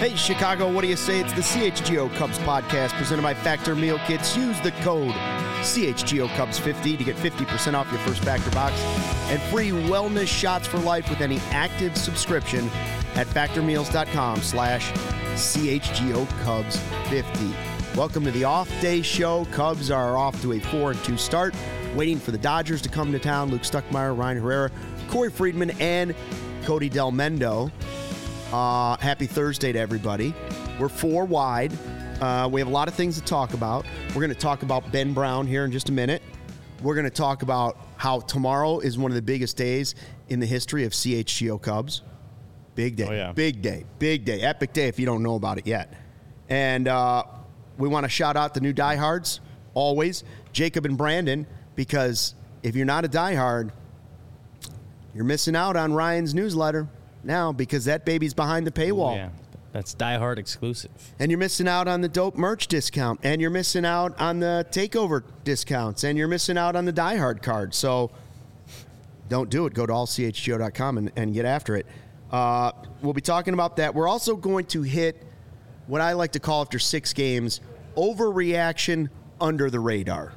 Hey, Chicago, what do you say? It's the CHGO Cubs podcast presented by Factor Meal Kits. Use the code CHGO Cubs 50 to get 50% off your first Factor box and free wellness shots for life with any active subscription at factormeals.com/CHGO Cubs 50. Welcome to the off-day show. Cubs are off to a 4-2 start, waiting for the Dodgers to come to town. Luke Stuckmeyer, Ryan Herrera, Corey Friedman, and Cody Del Mendo. Happy Thursday to everybody. We're 4 wide. We have a lot of things to talk about. We're going to talk about Ben Brown here in just a minute. We're going to talk about how tomorrow is one of the biggest days in the history of CHGO Cubs. Big day. Oh, yeah. Big day. Big day. Epic day if you don't know about it yet. And we want to shout out the new diehards, always, Jacob and Brandon, because if you're not a diehard, you're missing out on Ryan's newsletter now because that baby's behind the paywall. Oh, yeah. That's diehard exclusive. And you're missing out on the dope merch discount, and you're missing out on the takeover discounts, and you're missing out on the diehard card. So don't do it. Go to allchgo.com and get after it. We'll be talking about that. We're also going to hit what I like to call after 6 games, overreaction under the radar.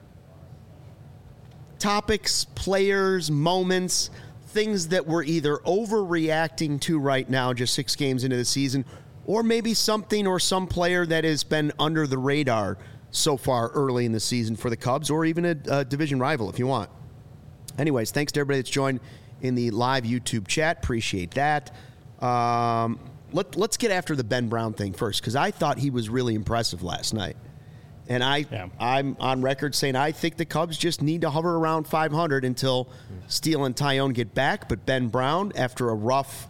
Topics, players, moments, things that we're either overreacting to right now, just 6 games into the season, or maybe something or some player that has been under the radar so far early in the season for the Cubs, or even a division rival if you want. Anyways, thanks to everybody that's joined in the live YouTube chat. Appreciate that. Let's get after the Ben Brown thing first, because I thought he was really impressive last night. And I'm on record saying I think the Cubs just need to hover around 500 until Steele and Taillon get back. But Ben Brown, after a rough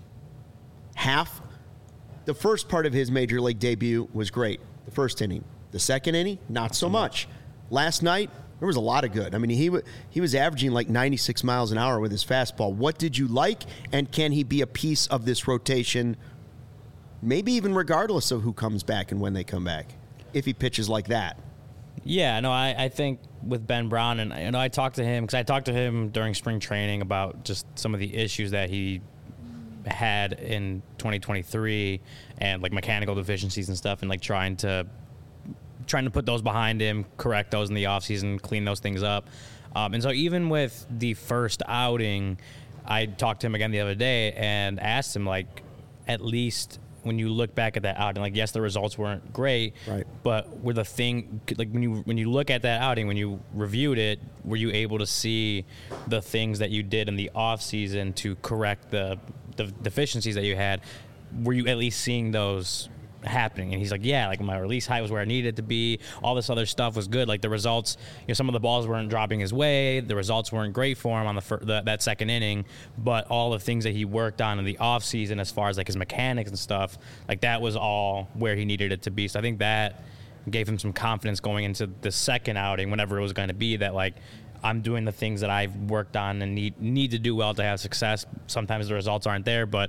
half, the first part of his major league debut was great. The first inning. The second inning, not so much. Last night, there was a lot of good. I mean, he was averaging like 96 miles an hour with his fastball. What did you like? And can he be a piece of this rotation, maybe even regardless of who comes back and when they come back, if he pitches like that? Yeah, no, I think with Ben Brown, and I talked to him, because I talked to him during spring training about just some of the issues that he had in 2023 and like mechanical deficiencies and stuff, and like trying to put those behind him, correct those in the offseason, clean those things up. And so even with the first outing, I talked to him again the other day and asked him, like, at least when you look back at that outing, like, yes, the results weren't great, right, but were the thing, like, when you look at that outing, when you reviewed it, were you able to see the things that you did in the offseason to correct the deficiencies that you had? Were you at least seeing those happening? And he's like, yeah, like my release height was where I needed it to be. All this other stuff was good. Like the results, some of the balls weren't dropping his way. The results weren't great for him on that second inning, but all the things that he worked on in the offseason as far as like his mechanics and stuff, like that was all where he needed it to be. So I think that gave him some confidence going into the second outing, whenever it was going to be, that like, I'm doing the things that I've worked on and need to do well to have success. Sometimes the results aren't there, but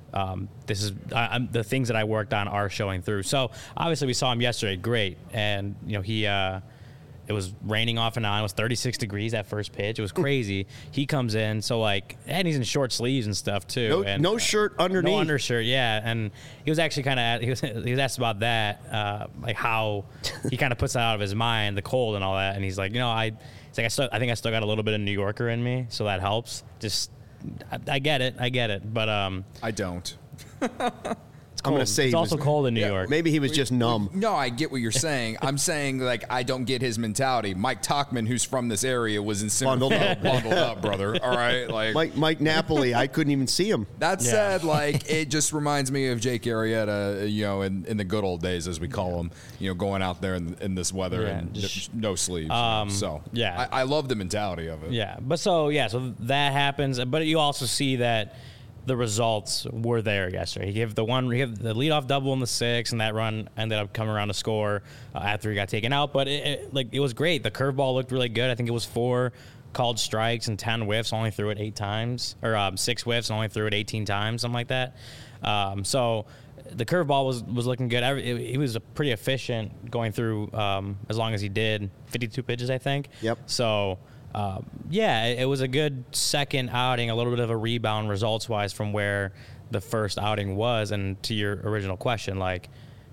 the things that I worked on are showing through. So obviously we saw him yesterday, great, and it was raining off and on. It was 36 degrees that first pitch. It was crazy. He comes in, so like, and he's in short sleeves and stuff too. No shirt underneath. No undershirt, yeah. And he was actually he was asked about that, like how he kind of puts that out of his mind, the cold and all that. And he's like, I think I still got a little bit of New Yorker in me, so that helps. Just. I get it, but I don't. I'm going to say it's also cold in New York. Maybe he was just numb. No, I get what you're saying. I'm saying, like, I don't get his mentality. Mike Tauchman, who's from this area, was in bundled up, brother. All right, like Mike Napoli. I couldn't even see him. That said, like, it just reminds me of Jake Arrieta, in the good old days, as we call them, going out there in this weather and no sleeves. I love the mentality of it. Yeah, but so that happens, but you also see that the results were there yesterday. He gave the leadoff double in the 6th, and that run ended up coming around to score after he got taken out. But it was great. The curveball looked really good. I think it was 4 called strikes and 10 whiffs. Only threw it 8 times, or 6 whiffs and only threw it 18 times, something like that. So the curveball was looking good. He was pretty efficient going through as long as he did. 52 pitches, I think. Yep. So. It was a good second outing, a little bit of a rebound results-wise from where the first outing was. And to your original question, like,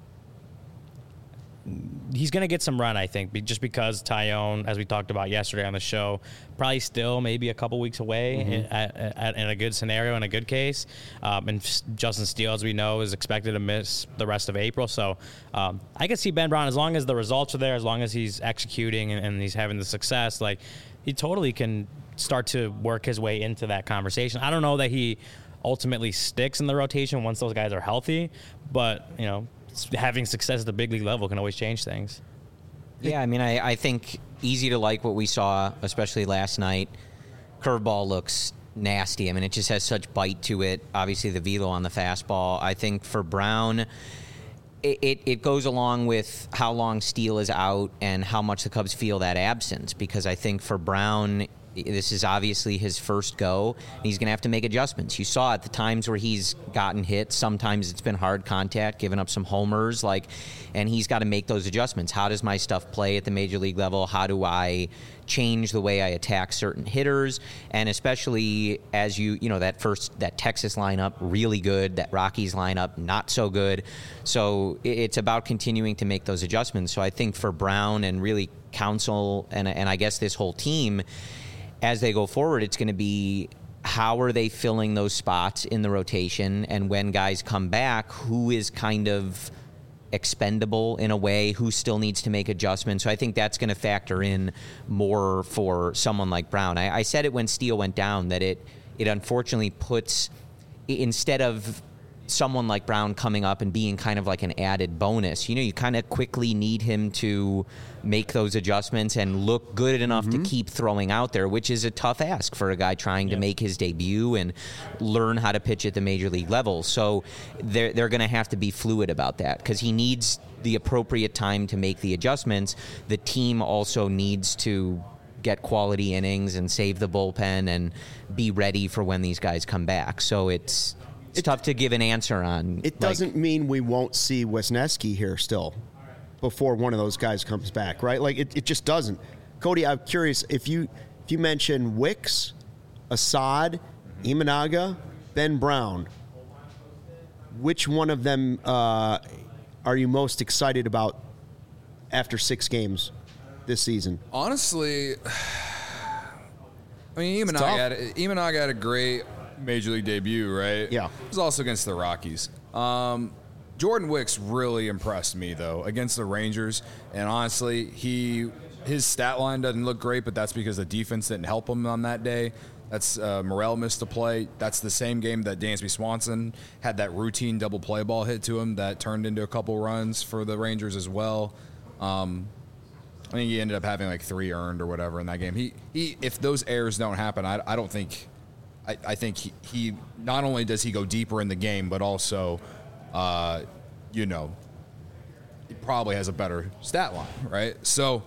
he's going to get some run, I think, just because Taillon, as we talked about yesterday on the show, probably still maybe a couple weeks away in a good scenario, in a good case. And Justin Steele, as we know, is expected to miss the rest of April. So I can see Ben Brown, as long as the results are there, as long as he's executing and he's having the success, like, he totally can start to work his way into that conversation. I don't know that he ultimately sticks in the rotation once those guys are healthy, but, you know, having success at the big league level can always change things. Yeah, I mean, I think easy to like what we saw, especially last night. Curveball looks nasty. I mean, it just has such bite to it. Obviously, the velo on the fastball. I think for Brown, it goes along with how long Steele is out and how much the Cubs feel that absence, because I think for Brown, this is obviously his first go, and he's going to have to make adjustments. You saw at the times where he's gotten hit, sometimes it's been hard contact, giving up some homers, and he's got to make those adjustments. How does my stuff play at the major league level? How do I change the way I attack certain hitters? And especially as that Texas lineup, really good, that Rockies lineup, not so good. So it's about continuing to make those adjustments. So I think for Brown and really Counsell and I guess this whole team, as they go forward, it's going to be how are they filling those spots in the rotation, and when guys come back, who is kind of expendable in a way, who still needs to make adjustments. So I think that's going to factor in more for someone like Brown. I said it when Steele went down that it unfortunately puts, instead of someone like Brown coming up and being kind of like an added bonus, you kind of quickly need him to make those adjustments and look good enough to keep throwing out there, which is a tough ask for a guy trying to make his debut and learn how to pitch at the major league level. So they're going to have to be fluid about that, because he needs the appropriate time to make the adjustments. The team also needs to get quality innings and save the bullpen and be ready for when these guys come back. So it's tough to give an answer on. It doesn't mean we won't see Wisniewski here still before one of those guys comes back, right? Like, it just doesn't. Cody, I'm curious, if you mention Wicks, Assad, Imanaga, Ben Brown, which one of them are you most excited about after 6 games this season? Honestly, I mean, Imanaga had a great major league debut, right? Yeah. It was also against the Rockies. Jordan Wicks really impressed me, though, against the Rangers. And honestly, his stat line doesn't look great, but that's because the defense didn't help him on that day. That's Morel missed a play. That's the same game that Dansby Swanson had that routine double play ball hit to him that turned into a couple runs for the Rangers as well. I think he ended up having like 3 earned or whatever in that game. He if those errors don't happen, I don't think – I think he not only does he go deeper in the game, but also, he probably has a better stat line, right? So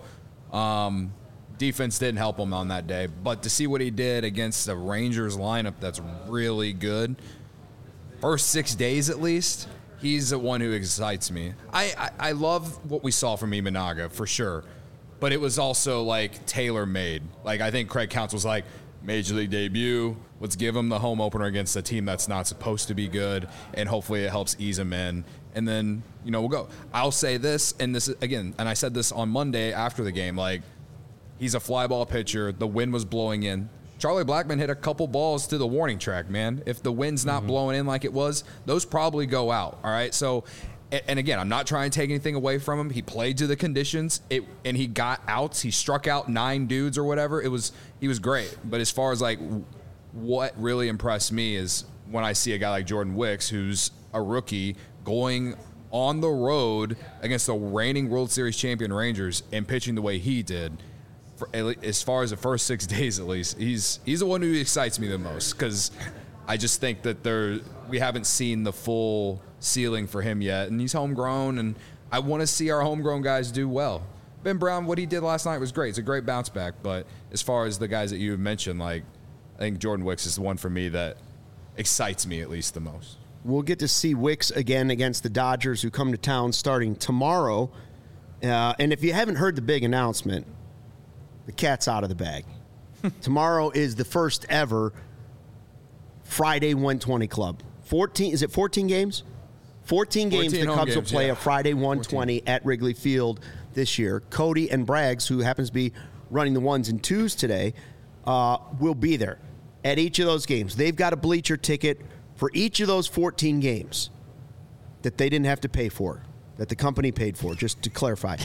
defense didn't help him on that day. But to see what he did against the Rangers lineup that's really good, first 6 days at least, he's the one who excites me. I love what we saw from Imanaga, for sure. But it was also, like, tailor-made. Like, I think Craig Counsell was like, major league debut, let's give him the home opener against a team that's not supposed to be good, and hopefully it helps ease him in. And then, we'll go. I'll say this, and this is, again, and I said this on Monday after the game, like, he's a fly ball pitcher. The wind was blowing in. Charlie Blackmon hit a couple balls to the warning track, man. If the wind's not blowing in like it was, those probably go out, all right? So, and again, I'm not trying to take anything away from him. He played to the conditions, and he got outs. He struck out 9 dudes or whatever. He was great. But as far as, like, what really impressed me is when I see a guy like Jordan Wicks, who's a rookie, going on the road against the reigning World Series champion Rangers and pitching the way he did. As far as the first 6 days, at least, he's the one who excites me the most, because I just think that we haven't seen the full ceiling for him yet, and he's homegrown, and I want to see our homegrown guys do well. Ben Brown, what he did last night was great. It's a great bounce back, but as far as the guys that you mentioned, like, I think Jordan Wicks is the one for me that excites me at least the most. We'll get to see Wicks again against the Dodgers, who come to town starting tomorrow. And if you haven't heard the big announcement, the cat's out of the bag. Tomorrow is the first ever Friday 120 Club 14. Is it 14 games? 14 games 14 the home Cubs will games, play yeah. a Friday 120 at Wrigley Field this year. Cody and Braggs, who happens to be running the 1s and 2s today, will be there at each of those games. They've got a bleacher ticket for each of those 14 games that they didn't have to pay for, that the company paid for, just to clarify.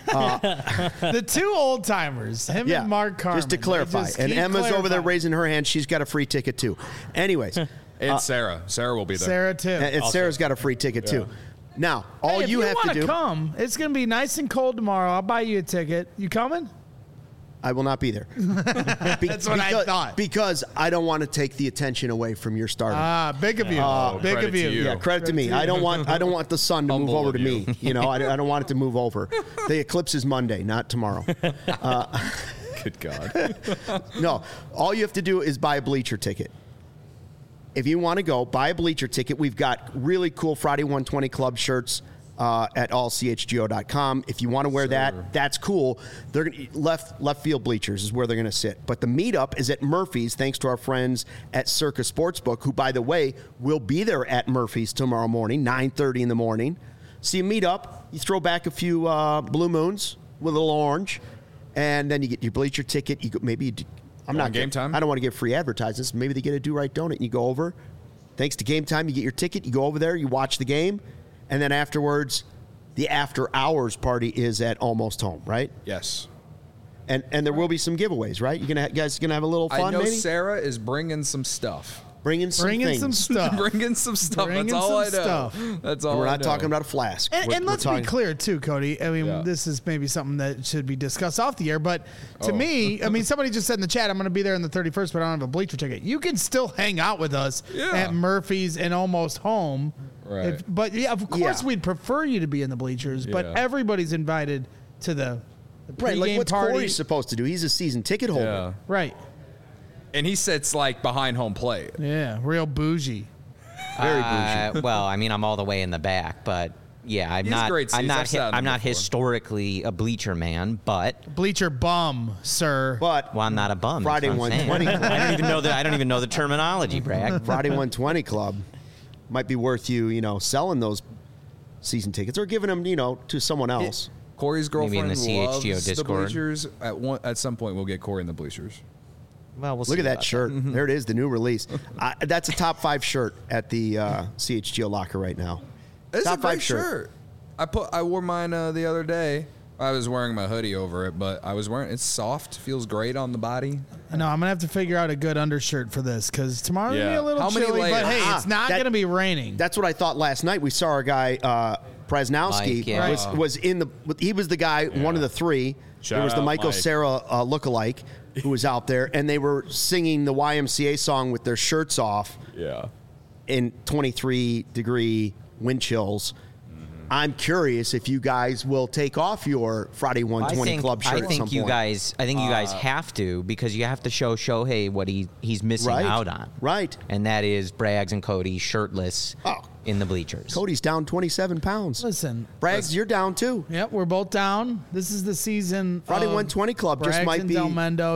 The two old timers, him and Mark Carmen. just to clarify. Just And keep Emma's over there clarifying. raising her hand. She's got a free ticket, too. Anyways, And Sarah will be there. Sarah too. and Sarah's got a free ticket, too. Now, all Hey, if you have to wanna do... come, it's going to be nice and cold tomorrow. I'll buy you a ticket. You coming? I will not be there. That's what I thought. Because I don't want to take the attention away from your starter. Big of you. Big credit of you. to you. Yeah, credit to me. I don't want the sun to move Humble over of to you. me. You know, I don't want it to move over. The eclipse is Monday, not tomorrow. Good God. No, all you have to do is buy a bleacher ticket. If you want to go, buy a bleacher ticket. We've got really cool Friday 120 Club shirts at allchgo.com. If you want to wear that, that's cool. They're gonna, left field bleachers is where they're going to sit. But the meetup is at Murphy's, thanks to our friends at Circa Sportsbook, who, by the way, will be there at Murphy's tomorrow morning, 9:30 in the morning. So you meet up, you throw back a few blue moons with a little orange, and then you get your bleacher ticket. You go, maybe you do, I'm not Game Time? I don't want to give free advertisements. Maybe they get a do-right donut and you go over. Thanks to Game Time, you get your ticket. You go over there, you watch the game, and then afterwards, the after-hours party is at Almost Home, right? Yes. And there will be some giveaways, right? You guys gonna have a little fun, I know maybe? Sarah is bringing some stuff. Bringing some Bringing things. some stuff. Bringing some stuff. Bringing That's all I know. some stuff. That's all We're I not know. talking about a flask. And We're let's talking- be clear, too, Cody. I mean, Yeah. this is maybe something that should be discussed off the air. But to me, I mean, somebody just said in the chat, I'm going to be there on the 31st, but I don't have a bleacher ticket. You can still hang out with us Yeah. at Murphy's and Almost Home. Right. But, yeah, of course, Yeah. we'd prefer you to be in the bleachers. But Yeah. everybody's invited to the Right, like pregame what's party. Corey supposed to do? He's a season ticket holder. Yeah. Right. And he sits like behind home plate. Yeah, real bougie. Very bougie. Well, I mean, I'm all the way in the back, but yeah, I'm He has not. great seats. I'm not. I've sat in I'm them not before. historically a bleacher man, but Bleacher bum, sir. But well, I'm not a bum. that's Friday what I'm saying. 120 I don't even know the. I don't even know the terminology, Bragg. Friday 120 Club might be worth you, selling those season tickets or giving them, to someone else. Corey's Maybe in girlfriend the CHGO loves the Discord. bleachers. At some point, we'll get Corey in the bleachers. Well, we'll Look see at that about shirt. There it is, the new release. That's a top 5 shirt at the CHGO locker right now. It's Top a great 5 shirt. I wore mine the other day. I was wearing my hoodie over it, but it's soft, feels great on the body. I know I'm gonna have to figure out a good undershirt for this because tomorrow's gonna be Yeah. a little How many chilly. But layers? hey, it's not that- gonna be raining. That's what I thought last night. We saw our guy Presnowski Mike, yeah. was in the. He was the guy, one of the 3. Shout there was the out Michael Mike. Cera lookalike who was out there, and they were singing the YMCA song with their shirts off Yeah. in 23-degree wind chills. I'm curious if you guys will take off your Friday 120 Club shirt I at some think you point. guys. I think you guys have to because you have to show Shohei what he's missing Right. out on. Right. And that is Braggs and Cody shirtless Oh. in the bleachers. Cody's down 27 pounds. Listen, Braggs, you're down too. yep, we're both down. This is the season. Friday of 120 Club just Braggs might and be Del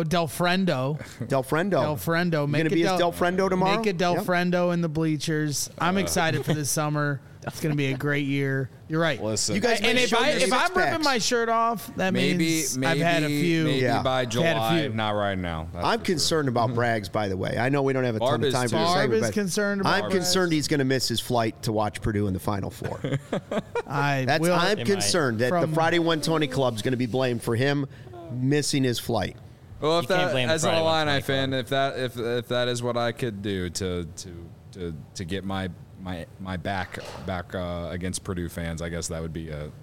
Friendo. Del Friendo. Del Friendo. You gonna be as Del Friendo tomorrow? Make it Del Yep. Friendo in the bleachers. I'm excited for this summer. It's gonna be a great year. You're right. Listen. You guys And might if show your I'm six ripping packs. my shirt off, that means I've had a few. Maybe Yeah. by I've had a July, few. not right now. That's I'm for sure. concerned about Braggs, by the way. I know we don't have a ton Barb of is time for too. this Barb segment, is but concerned about I'm Braggs. concerned he's going to miss his flight to watch Purdue in the Final Four. I That's will. I'm They concerned that the From- Friday 120 Club is going to be blamed for him missing his flight. Well, if You can't that, blame the as an Friday Illini 120 fan, if that is what I could do to get my back against Purdue fans, I guess that would be a.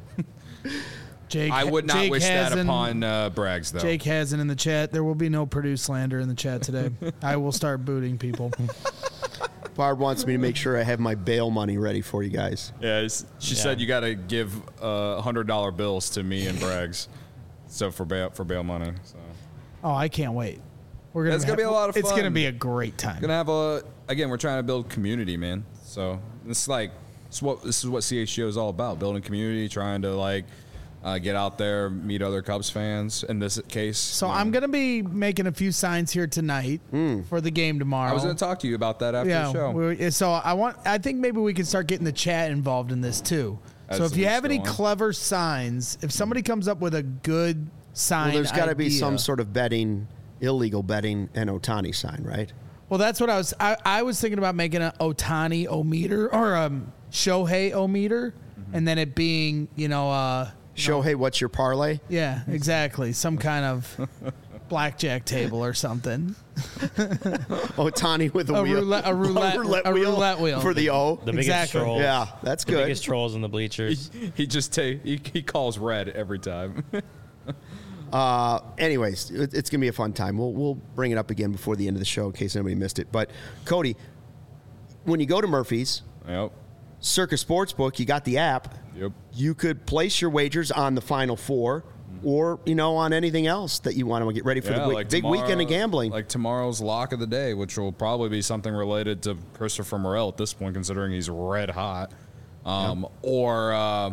Jake, I would not Jake wish that Hazen- upon Braggs, though. Jake Hazen in the chat. There will be no Purdue slander in the chat today. I will start booting people. Barb wants me to make sure I have my bail money ready for you guys. Yeah, she said you got to give $100 bills to me and Braggs, so for bail money. So Oh, I can't wait. We're gonna. It's gonna be a lot of It's gonna fun. be a great time. gonna have we're trying to build community, man. So this is what CHGO is all about: building community, trying to get out there, meet other Cubs fans. In this case, So I'm going to be making a few signs here tonight for the game tomorrow. I was going to talk to you about that after the show. So I think maybe we can start getting the chat involved in this too. So if you have any clever signs, if somebody comes up with a good sign, well, there's got to be idea- some sort of betting, illegal betting, and Ohtani sign, right? Well, that's what I was thinking about making an Ohtani O-meter or a Shohei O-meter, and then it being, Shohei, what's your parlay? Yeah, exactly. Some kind of blackjack table or something. Ohtani with a wheel. A roulette wheel. For the O. The biggest Exactly. trolls. Yeah, that's The good. biggest trolls in the bleachers. He calls red every time. Anyways, it's going to be a fun time. We'll bring it up again before the end of the show in case anybody missed it. But, Cody, when you go to Murphy's, Yep. Circa Sportsbook, you got the app. Yep. You could place your wagers on the Final Four or, on anything else that you want to get ready for the big weekend of gambling. Like tomorrow's lock of the day, which will probably be something related to Christopher Morel at this point, considering he's red hot. Or,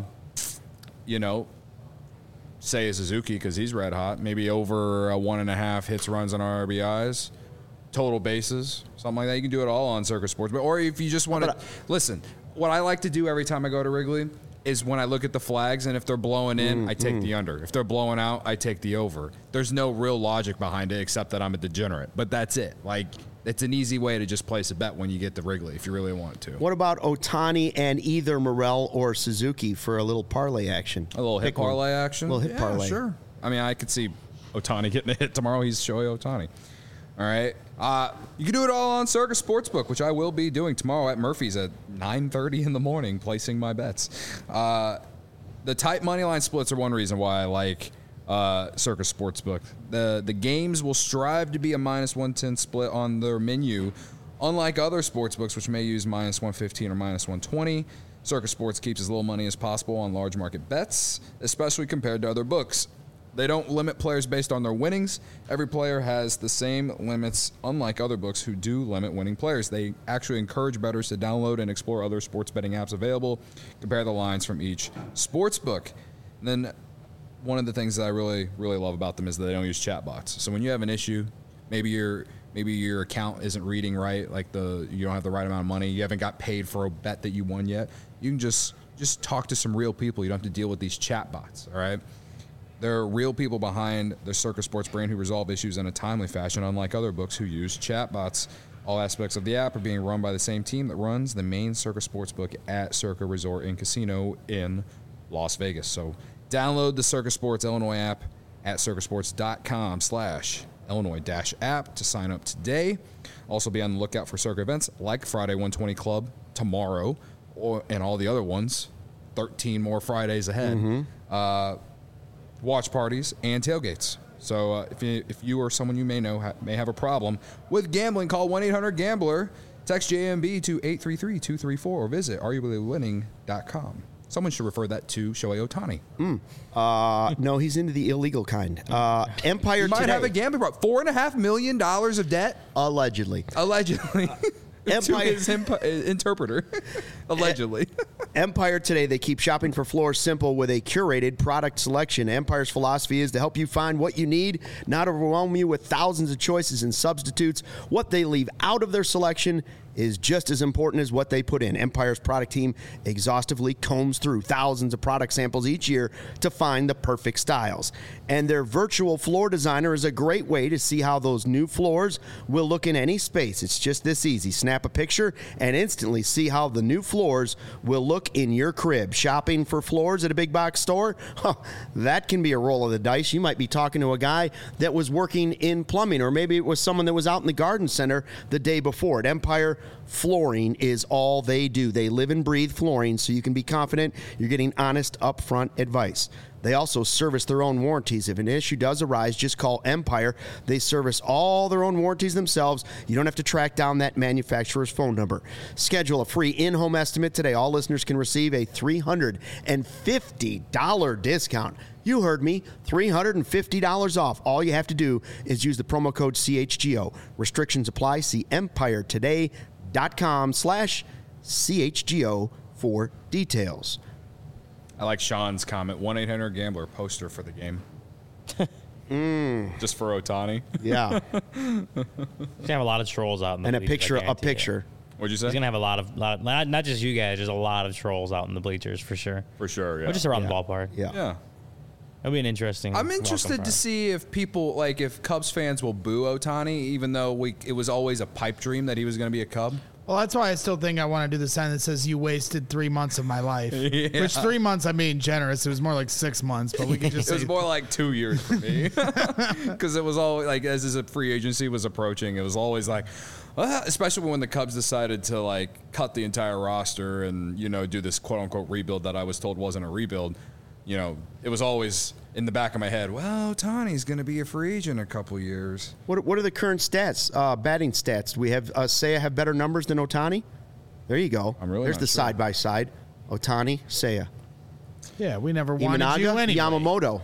say Suzuki because he's red hot. Maybe over 1.5 hits, runs, and RBIs. Total bases, something like that. You can do it all on Circa Sportsbook. Or if you just want to listen, what I like to do every time I go to Wrigley is when I look at the flags, and if they're blowing in, I take the under. If they're blowing out, I take the over. There's no real logic behind it except that I'm a degenerate. But that's it. Like, it's an easy way to just place a bet when you get to Wrigley if you really want to. What about Ohtani and either Morel or Suzuki for a little parlay action? A little hit parlay action? A little hit parlay. Sure. I mean, I could see Ohtani getting a hit tomorrow. He's Shohei Ohtani. All right. You can do it all on Circa Sportsbook, which I will be doing tomorrow at Murphy's at 9:30 in the morning, placing my bets. The tight money line splits are one reason why I like Circa Sportsbook. The games will strive to be a -110 split on their menu, unlike other sportsbooks, which may use -115 or -120. Circa Sports keeps as little money as possible on large market bets, especially compared to other books. They don't limit players based on their winnings. Every player has the same limits, unlike other books who do limit winning players. They actually encourage bettors to download and explore other sports betting apps available, compare the lines from each sports book. And then one of the things that I really, really love about them is that they don't use chatbots. So when you have an issue, maybe your account isn't reading right, like you don't have the right amount of money, you haven't got paid for a bet that you won yet, you can just talk to some real people. You don't have to deal with these chatbots, all right? There are real people behind the Circa Sports brand who resolve issues in a timely fashion, unlike other books who use chatbots. All aspects of the app are being run by the same team that runs the main Circa Sportsbook at Circa Resort and Casino in Las Vegas. So download the Circa Sports Illinois app at circasports.com/Illinois-app to sign up today. Also be on the lookout for Circa events like Friday 120 Club tomorrow and all the other ones. 13 more Fridays ahead. Watch parties and tailgates. So if you or someone you may know may have a problem with gambling, call 1-800-GAMBLER, text JMB to 833-234, or visit areyourwinning.com. Someone should refer that to Shohei Ohtani. No, he's into the illegal kind. Empire You might Today. have a gambling problem. $4.5 million of debt? Allegedly. To his interpreter. Allegedly. Empire Today, they keep shopping for floors simple with a curated product selection. Empire's philosophy is to help you find what you need, not overwhelm you with thousands of choices and substitutes. What they leave out of their selection is just as important as what they put in. Empire's product team exhaustively combs through thousands of product samples each year to find the perfect styles. And their virtual floor designer is a great way to see how those new floors will look in any space. It's just this easy. Snap a picture and instantly see how the new floors will look in your crib. Shopping for floors at a big box store? That can be a roll of the dice. You might be talking to a guy that was working in plumbing, or maybe it was someone that was out in the garden center the day before. At Empire, flooring is all they do. They live and breathe flooring, so you can be confident you're getting honest, upfront advice. They also service their own warranties. If an issue does arise, just call Empire. They service all their own warranties themselves. You don't have to track down that manufacturer's phone number. Schedule a free in-home estimate today. All listeners can receive a $350 discount. You heard me, $350 off. All you have to do is use the promo code CHGO. Restrictions apply. See EmpireToday.com/CHGO for details. I like Sean's comment. 1-800-GAMBLER poster for the game. Just for Ohtani. Yeah. He's gonna have a lot of trolls out in the And a bleachers, picture. I A guarantee you. picture. What'd you say? He's gonna have a lot of not just you guys, just a lot of trolls out in the bleachers for sure. For sure, yeah. Or just around Yeah. the ballpark. Yeah. Yeah. It'll be an interesting. I'm welcome interested for to him. see if people, like, if Cubs fans will boo Ohtani, even though it was always a pipe dream that he was going to be a Cub. Well, that's why I still think I want to do the sign that says "You wasted 3 months of my life." Which 3 months I'm being generous. It was more like 6 months, but we can just It was say more like 2 years for me. Because it was always, like, as a free agency was approaching, it was always like, especially when the Cubs decided to, like, cut the entire roster and, do this quote-unquote rebuild that I was told wasn't a rebuild. It was always in the back of my head, well, Ohtani's going to be a free agent in a couple years. What are the current stats? Batting stats? Do we have Seiya have better numbers than Ohtani? There you go. I'm really There's not the sure. side by side. Ohtani, Seiya. yeah, we never wanted you Imanaga, anyway. Yamamoto.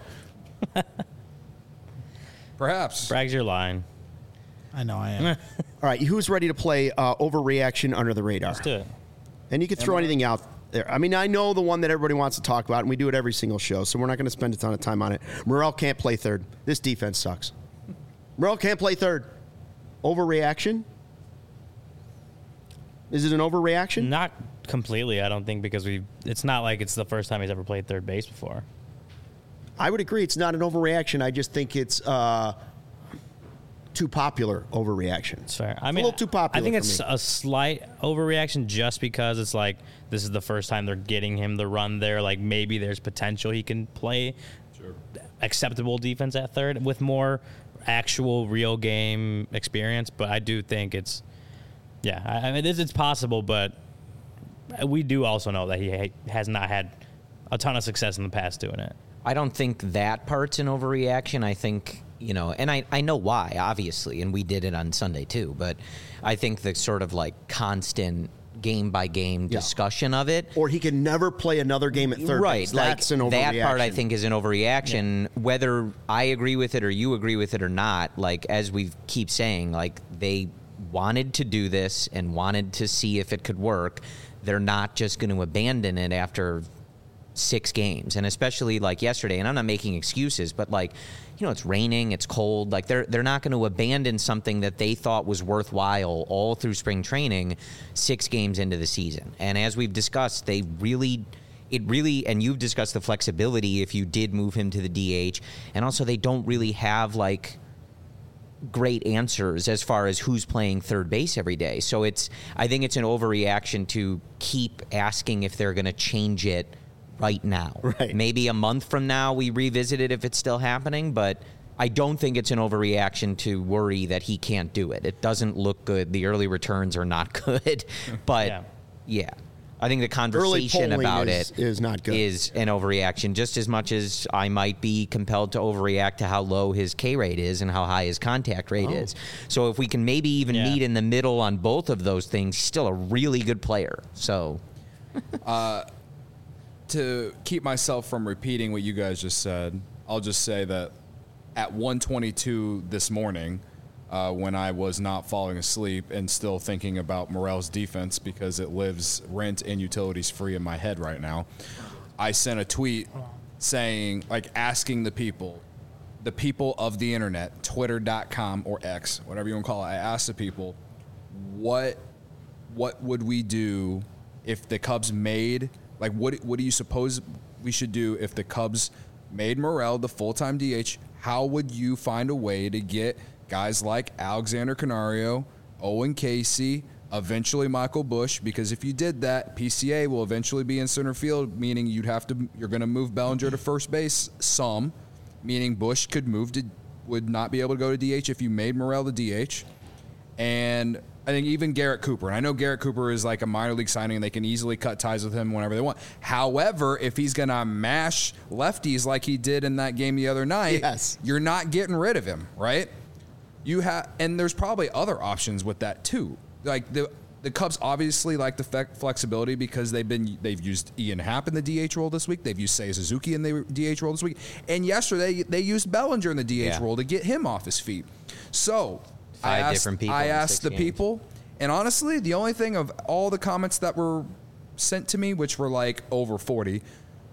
Perhaps. Brag's your line. I know I am. All right, who's ready to play overreaction under the radar? Let's do it. And you can throw anything out there. I mean, I know the one that everybody wants to talk about, and we do it every single show, so we're not going to spend a ton of time on it. Morel can't play third. This defense sucks. Morel can't play third. Overreaction? Is it an overreaction? Not completely, I don't think, because it's not like it's the first time he's ever played third base before. I would agree. It's not an overreaction. I just think it's too popular overreaction. It's fair. a little too popular I think for it's me. a slight overreaction just because it's like this is the first time they're getting him the run there. Like maybe there's potential he can play acceptable defense at third with more actual real game experience. But I do think it's I mean it's possible, but we do also know that he has not had a ton of success in the past doing it. I don't think that part's an overreaction. I think, and I know why, obviously, and we did it on Sunday too, but I think the sort of like constant game-by-game discussion of it. Or he can never play another game at third Right, base. That's an overreaction. that part I think is an overreaction. Whether I agree with it or you agree with it or not, like as we keep saying, like they wanted to do this and wanted to see if it could work. They're not just going to abandon it after 6 games, and especially like yesterday, and I'm not making excuses, but like, it's raining, it's cold, like they're not going to abandon something that they thought was worthwhile all through spring training 6 games into the season. And as we've discussed, and you've discussed the flexibility if you did move him to the DH, and also they don't really have like great answers as far as who's playing third base every day. So I think it's an overreaction to keep asking if they're going to change it right now. Right. Maybe a month from now we revisit it if it's still happening, but I don't think it's an overreaction to worry that he can't do it. It doesn't look good. The early returns are not good. But yeah. I think the conversation polling about is not good. is an overreaction, just as much as I might be compelled to overreact to how low his K rate is and how high his contact rate is. So if we can maybe even meet in the middle on both of those things, he's still a really good player. So To keep myself from repeating what you guys just said, I'll just say that at 1:22 this morning, when I was not falling asleep and still thinking about Morel's defense because it lives rent and utilities free in my head right now, I sent a tweet saying, like, asking the people of the internet, twitter.com or X, whatever you want to call it, I asked the people, what would we do if the Cubs made, like, what do you suppose we should do if the Cubs made Morel the full-time DH? How would you find a way to get guys like Alexander Canario, Owen Casey, eventually Michael Busch? Because if you did that, PCA will eventually be in center field, meaning you're going to move Bellinger to first base some, meaning Busch would not be able to go to DH if you made Morel the DH. And I think even Garrett Cooper, and I know Garrett Cooper is like a minor league signing, and they can easily cut ties with him whenever they want. However, if he's going to mash lefties like he did in that game the other night, you're not getting rid of him, right? And there's probably other options with that too. Like the Cubs obviously like the flexibility because they've used Ian Happ in the DH role this week. They've used Seiya Suzuki in the DH role this week, and yesterday they used Bellinger in the DH role to get him off his feet. So I asked the people, and honestly, the only thing of all the comments that were sent to me, which were like over 40,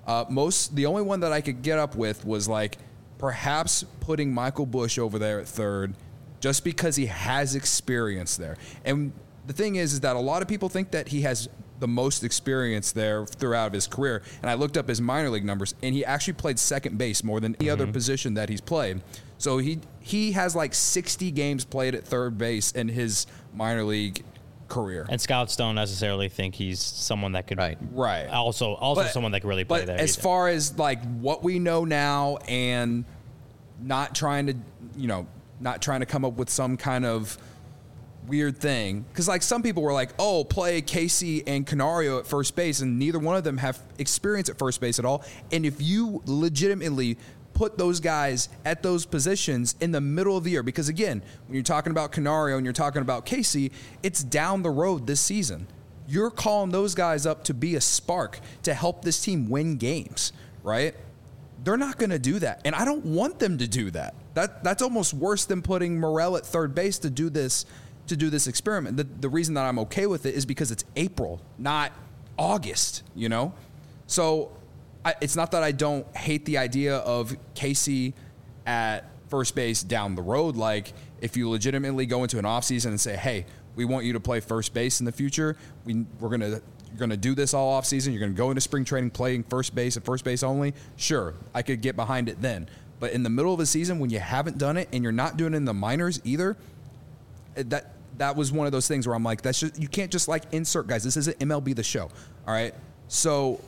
The only one that I could get up with was like perhaps putting Michael Busch over there at third, just because he has experience there. And the thing is that a lot of people think that he has the most experience there throughout his career. And I looked up his minor league numbers, and he actually played second base more than any other position that he's played. So he has like 60 games played at third base in his minor league career. And scouts don't necessarily think he's someone that could right. Also someone that could really play there. But as far as like what we know now, and not trying to come up with some kind of weird thing, because like some people were like, oh, play Casey and Canario at first base, and neither one of them have experience at first base at all. And if you legitimately put those guys at those positions in the middle of the year, because again, when you're talking about Canario and you're talking about Casey, it's down the road this season. You're calling those guys up to be a spark to help this team win games, right? They're not going to do that, and I don't want them to do that. That's almost worse than putting Morel at third base to do this experiment. The reason that I'm okay with it is because it's April, not August, you know? So it's not that I don't hate the idea of Casey at first base down the road. Like, if you legitimately go into an offseason and say, hey, we want you to play first base in the future, you're going to do this all offseason, you're going to go into spring training playing first base and first base only, sure, I could get behind it then. But in the middle of a season when you haven't done it and you're not doing it in the minors either, that was one of those things where I'm like, that's just, you can't just like insert guys. This isn't MLB The Show, all right? So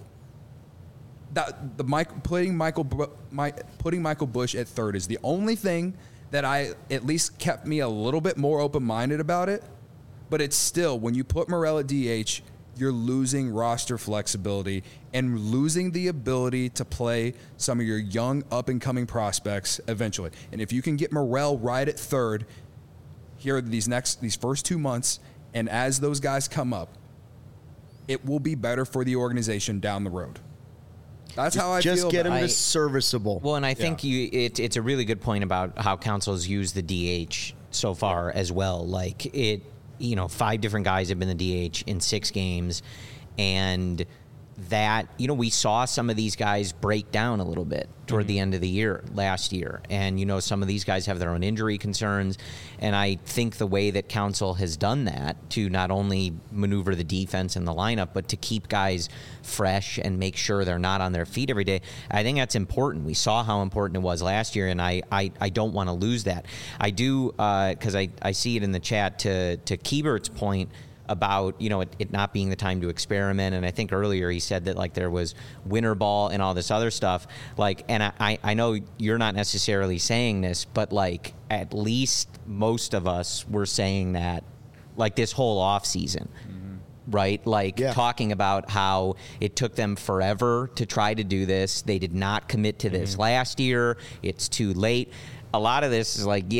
putting Michael Busch at third is the only thing that at least kept me a little bit more open-minded about it. But it's still, when you put Morel at DH, you're losing roster flexibility and losing the ability to play some of your young up-and-coming prospects eventually. And if you can get Morel right at third here these first 2 months, and as those guys come up, it will be better for the organization down the road. That's how I feel. Just get him to serviceable. Well, and I think it's a really good point about how Council's used the DH so far as well. Like 5 different guys have been the DH in 6 games, and that, we saw some of these guys break down a little bit toward the end of the year last year. And, some of these guys have their own injury concerns. And I think the way that Council has done that to not only maneuver the defense and the lineup, but to keep guys fresh and make sure they're not on their feet every day, I think that's important. We saw how important it was last year, and I don't want to lose that. I do, because I see it in the chat to Kiebert's point about it not being the time to experiment. And I think earlier he said that like there was winter ball and all this other stuff, like, and I know you're not necessarily saying this, but like at least most of us were saying that like this whole off season, right? Like talking about how it took them forever to try to do this. They did not commit to this last year. It's too late. A lot of this is like,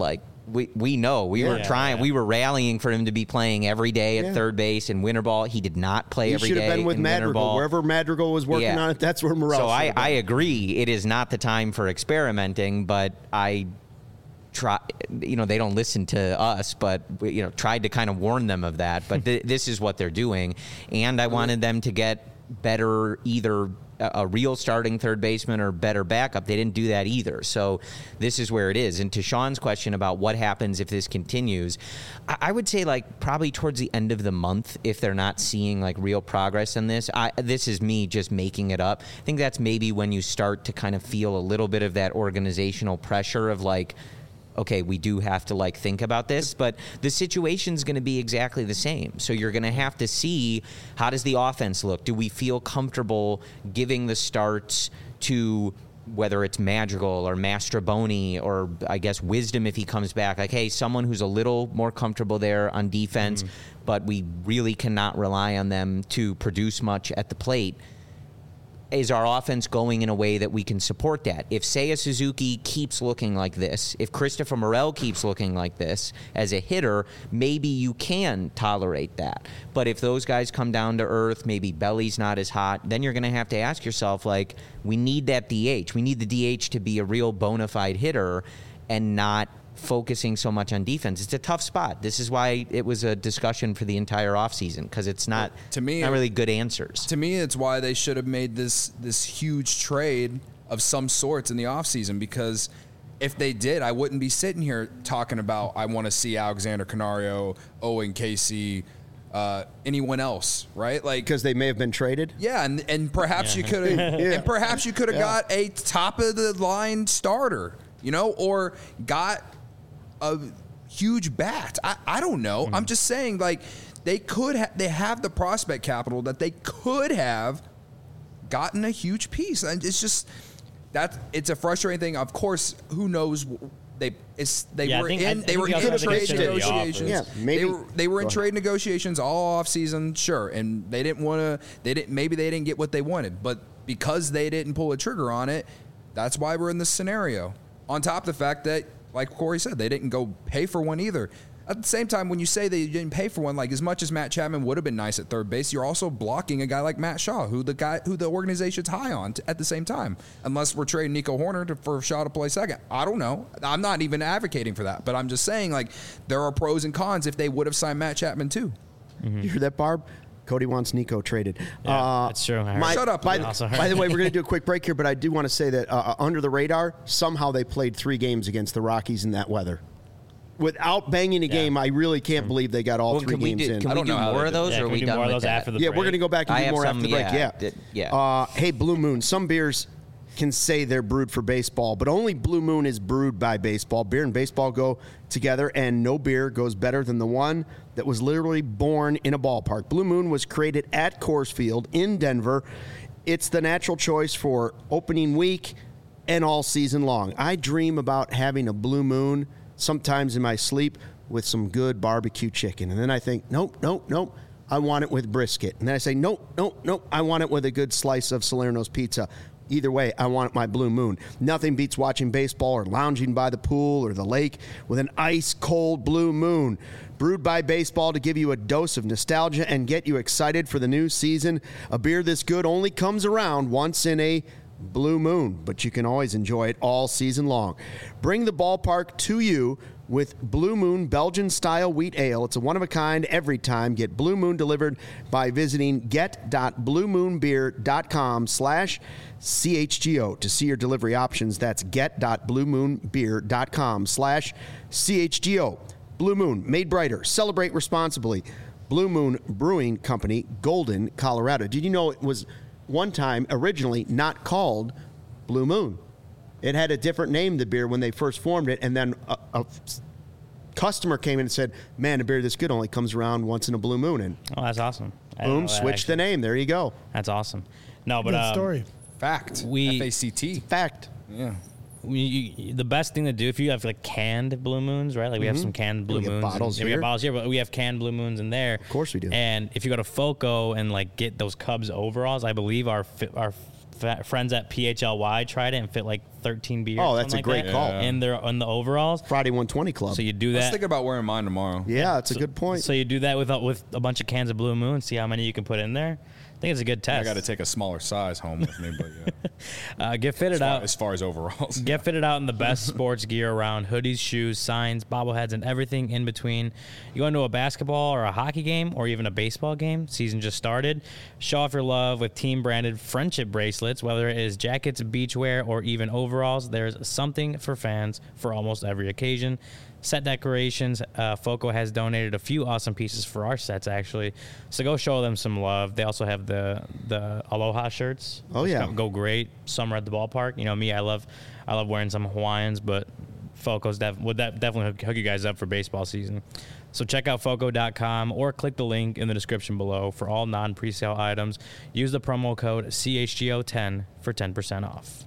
we know we were trying. We were rallying for him to be playing every day at third base in winter ball. He did not play every day. He should have been with Madrigal. Wherever Madrigal was working on it, that's where Morel. So I agree. It is not the time for experimenting, but I try. They don't listen to us, but tried to kind of warn them of that. But this is what they're doing, and I wanted them to get better, either a real starting third baseman or better backup. They didn't do that either. So this is where it is. And to Sean's question about what happens if this continues, I would say like probably towards the end of the month, if they're not seeing like real progress in this, this is me just making it up. I think that's maybe when you start to kind of feel a little bit of that organizational pressure of like, okay, we do have to like think about this, but the situation's going to be exactly the same. So you're going to have to see, how does the offense look? Do we feel comfortable giving the starts to whether it's Madrigal or Mastroboni or I guess Wisdom if he comes back? Like, hey, someone who's a little more comfortable there on defense, but we really cannot rely on them to produce much at the plate. Is our offense going in a way that we can support that? If Seiya Suzuki keeps looking like this, if Christopher Morel keeps looking like this as a hitter, maybe you can tolerate that. But if those guys come down to earth, maybe Belly's not as hot, then you're going to have to ask yourself, like, we need that DH. We need the DH to be a real bona fide hitter and not focusing so much on defense. It's a tough spot. This is why it was a discussion for the entire offseason, because it's not, to me, not really good answers. To me, it's why they should have made this huge trade of some sorts in the offseason, because if they did, I wouldn't be sitting here talking about I want to see Alexander Canario, Owen Casey, anyone else, right? Like, because they may have been traded. Yeah, and perhaps you could have and perhaps you could have got a top of the line starter, or got a huge bat. I don't know. I'm just saying, like, they have the prospect capital that they could have gotten a huge piece, and it's just it's a frustrating thing. Of course, who knows? They were in trade negotiations. Yeah, maybe they were in trade negotiations all off season, sure, and they didn't get what they wanted, but because they didn't pull a trigger on it, that's why we're in this scenario. On top of the fact that, like Corey said, they didn't go pay for one either. At the same time, when you say they didn't pay for one, like, as much as Matt Chapman would have been nice at third base, you're also blocking a guy like Matt Shaw, who the organization's high on at the same time. Unless we're trading Nico Horner for Shaw to play second. I don't know. I'm not even advocating for that, but I'm just saying, like, there are pros and cons if they would have signed Matt Chapman too. Mm-hmm. You hear that, Barb? Cody wants Nico traded. Yeah, that's true. Shut up. By the way, we're going to do a quick break here, but I do want to say that under the radar, somehow they played 3 games against the Rockies in that weather. Without banging a game, I really can't believe they got all 3 games in. Can we do more of those, or are we done with that? After the break? We're going to go back and do more after the break. Yeah. Hey, Blue Moon. Some beers can say they're brewed for baseball, but only Blue Moon is brewed by baseball. Beer and baseball go together, and no beer goes better than the one that was literally born in a ballpark. Blue Moon was created at Coors Field in Denver. It's the natural choice for opening week and all season long. I dream about having a Blue Moon sometimes in my sleep with some good barbecue chicken. And then I think, nope, I want it with brisket. And then I say, nope, I want it with a good slice of Salerno's pizza. Either way, I want my Blue Moon. Nothing beats watching baseball or lounging by the pool or the lake with an ice-cold Blue Moon. Brewed by baseball to give you a dose of nostalgia and get you excited for the new season. A beer this good only comes around once in a Blue Moon, but you can always enjoy it all season long. Bring the ballpark to you with Blue Moon Belgian-style wheat ale. It's a one-of-a-kind every time. Get Blue Moon delivered by visiting get.bluemoonbeer.com/CHGO to see your delivery options. That's get.bluemoonbeer.com/CHGO. Blue Moon, made brighter. Celebrate responsibly. Blue Moon Brewing Company, Golden, Colorado. Did you know it was one time originally not called Blue Moon? It had a different name, the beer, when they first formed it, and then a customer came in and said, man, a beer this good only comes around once in a Blue Moon. And that's awesome. Boom, switch the name. There you go. That's awesome. No, but good story. Fact. F-A-C-T. Fact. Yeah. The best thing to do if you have like canned Blue Moons, right? Like we have some canned Blue Moons. Bottles here. We have bottles here, but we have canned Blue Moons in there. Of course we do. And if you go to FOCO and like get those Cubs overalls, I believe our friends at PHLY tried it and fit like 13 beers. Oh, that's a great call. In the overalls. Friday 120 Club. So you do that. Let's think about wearing mine tomorrow. Yeah, that's a good point. So you do that with a bunch of cans of Blue Moon, see how many you can put in there. I think it's a good test. I got to take a smaller size home with me, but yeah. Get fitted out. As far as overalls. Get fitted out in the best sports gear around: hoodies, shoes, signs, bobbleheads, and everything in between. You go into a basketball or a hockey game or even a baseball game. Season just started. Show off your love with team-branded friendship bracelets. Whether it is jackets, beachwear, or even overalls, there's something for fans for almost every occasion. Set decorations. FOCO has donated a few awesome pieces for our sets, actually. So go show them some love. They also have the Aloha shirts. Oh, yeah. Go great. Summer at the ballpark. You know me, I love wearing some Hawaiians, but FOCO's would definitely hook you guys up for baseball season. So check out FOCO.com or click the link in the description below for all non-presale items. Use the promo code CHGO10 for 10% off.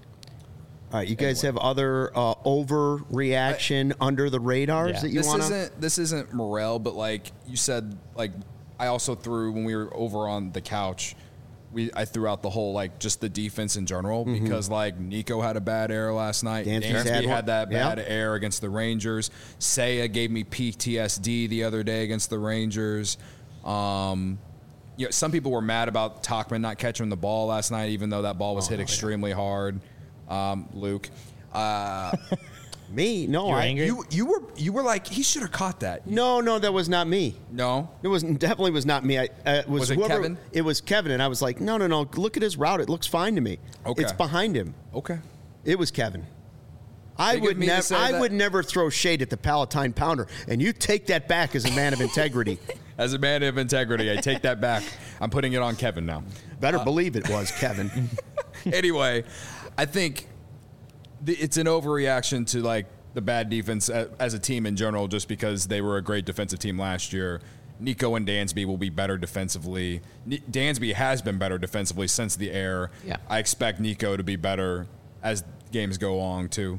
All right, you guys have other overreaction under the radars that you want to? This isn't Morel, but like you said, like I also threw when we were over on the couch, I threw out the whole like just the defense in general because like Nico had a bad error last night. Dansby had that bad error against the Rangers. Seiya gave me PTSD the other day against the Rangers. Some people were mad about Tauchman not catching the ball last night, even though that ball was hit extremely hard. Luke. Me? No, You were I. angry? You were like, he should have caught that. No, that was not me. No. It definitely was not me. Was it Kevin? It was Kevin, and I was like, no. Look at his route. It looks fine to me. Okay. It's behind him. Okay. It was Kevin. I Think of would me to never. say I that? would never throw shade at the Palatine Pounder, and you take that back as a man of integrity. As a man of integrity, I take that back. I'm putting it on Kevin now. Better believe it was Kevin. Anyway, I think it's an overreaction to like the bad defense as a team in general, just because they were a great defensive team last year. Nico and Dansby will be better defensively. Dansby has been better defensively since the air. Yeah. I expect Nico to be better as games go on too.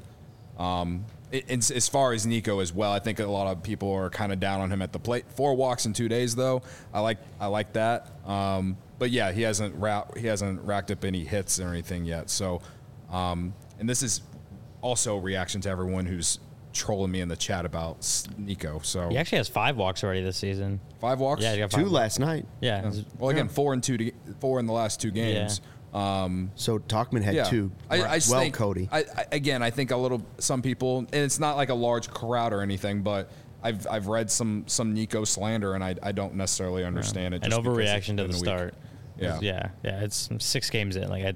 As far as Nico as well, I think a lot of people are kind of down on him at the plate. 4 walks in 2 days, though. I like that. But yeah, he hasn't racked up any hits or anything yet. So, and this is also a reaction to everyone who's trolling me in the chat about Nico. So He actually has 5 walks already this season. 5 walks. Yeah, he got 5 2 last night. Yeah. Well, again, 4 in the last 2 games. So Talkman had 2. I well, think, Cody. I think some people, and it's not like a large crowd or anything, but I've read some Nico slander, and I don't necessarily understand it. An just because overreaction it's to been the a week. start. Yeah. Yeah. It's 6 games in. Like,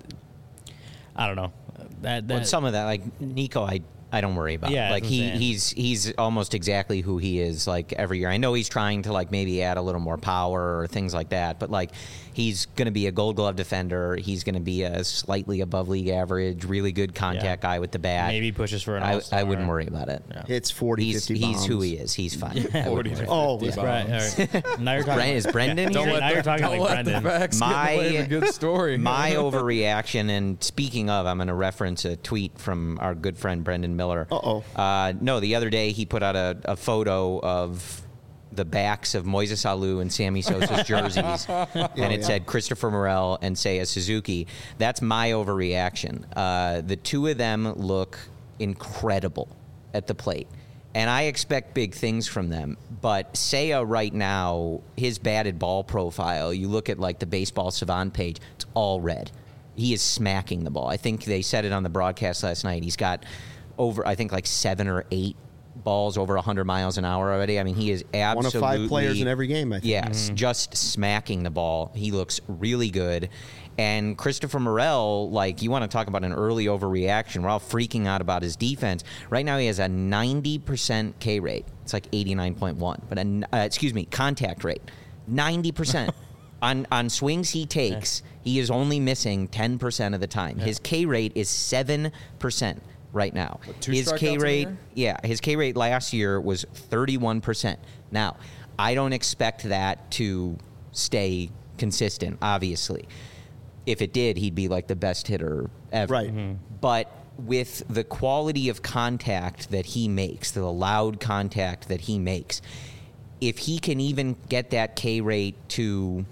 I don't know. But some of that, like Nico, I don't worry about. Yeah, Like that's what I'm he's almost exactly who he is like every year. I know he's trying to like maybe add a little more power or things like that, but like he's going to be a Gold Glove defender. He's going to be a slightly above league average, really good contact guy with the bat. Maybe pushes for an I all-star. wouldn't worry about it. Hits 40, 50 bombs. He's who he is. He's fine. I wouldn't worry. Oh, Yeah. Right. All right. Now you're talking. Is Brendan Don't here? now you're talking like Brendan. My good story. My overreaction, and speaking of, I'm going to reference a tweet from our good friend Brendan Miller. No, the other day he put out a photo of the backs of Moises Alou and Sammy Sosa's jerseys, and it said Christopher Morel and Seiya Suzuki. That's my overreaction. The two of them look incredible at the plate. And I expect big things from them. But Seiya right now, his batted ball profile, you look at like the Baseball Savant page, it's all red. He is smacking the ball. I think they said it on the broadcast last night. He's got over, I think, like 7 or 8 balls over 100 miles an hour already. I mean, he is absolutely... One of 5 players in every game, I think. Yes, just smacking the ball. He looks really good. And Christopher Morel, like, you want to talk about an early overreaction. We're all freaking out about his defense. Right now he has a 90% K rate. It's like 89.1. But, contact rate. 90%. On swings he takes, he is only missing 10% of the time. His K rate is 7% right now. His K rate, his K rate last year was 31%. Now, I don't expect that to stay consistent, obviously. If it did, he'd be like the best hitter ever. Right. But with the quality of contact that he makes, the loud contact that he makes, if he can even get that K rate to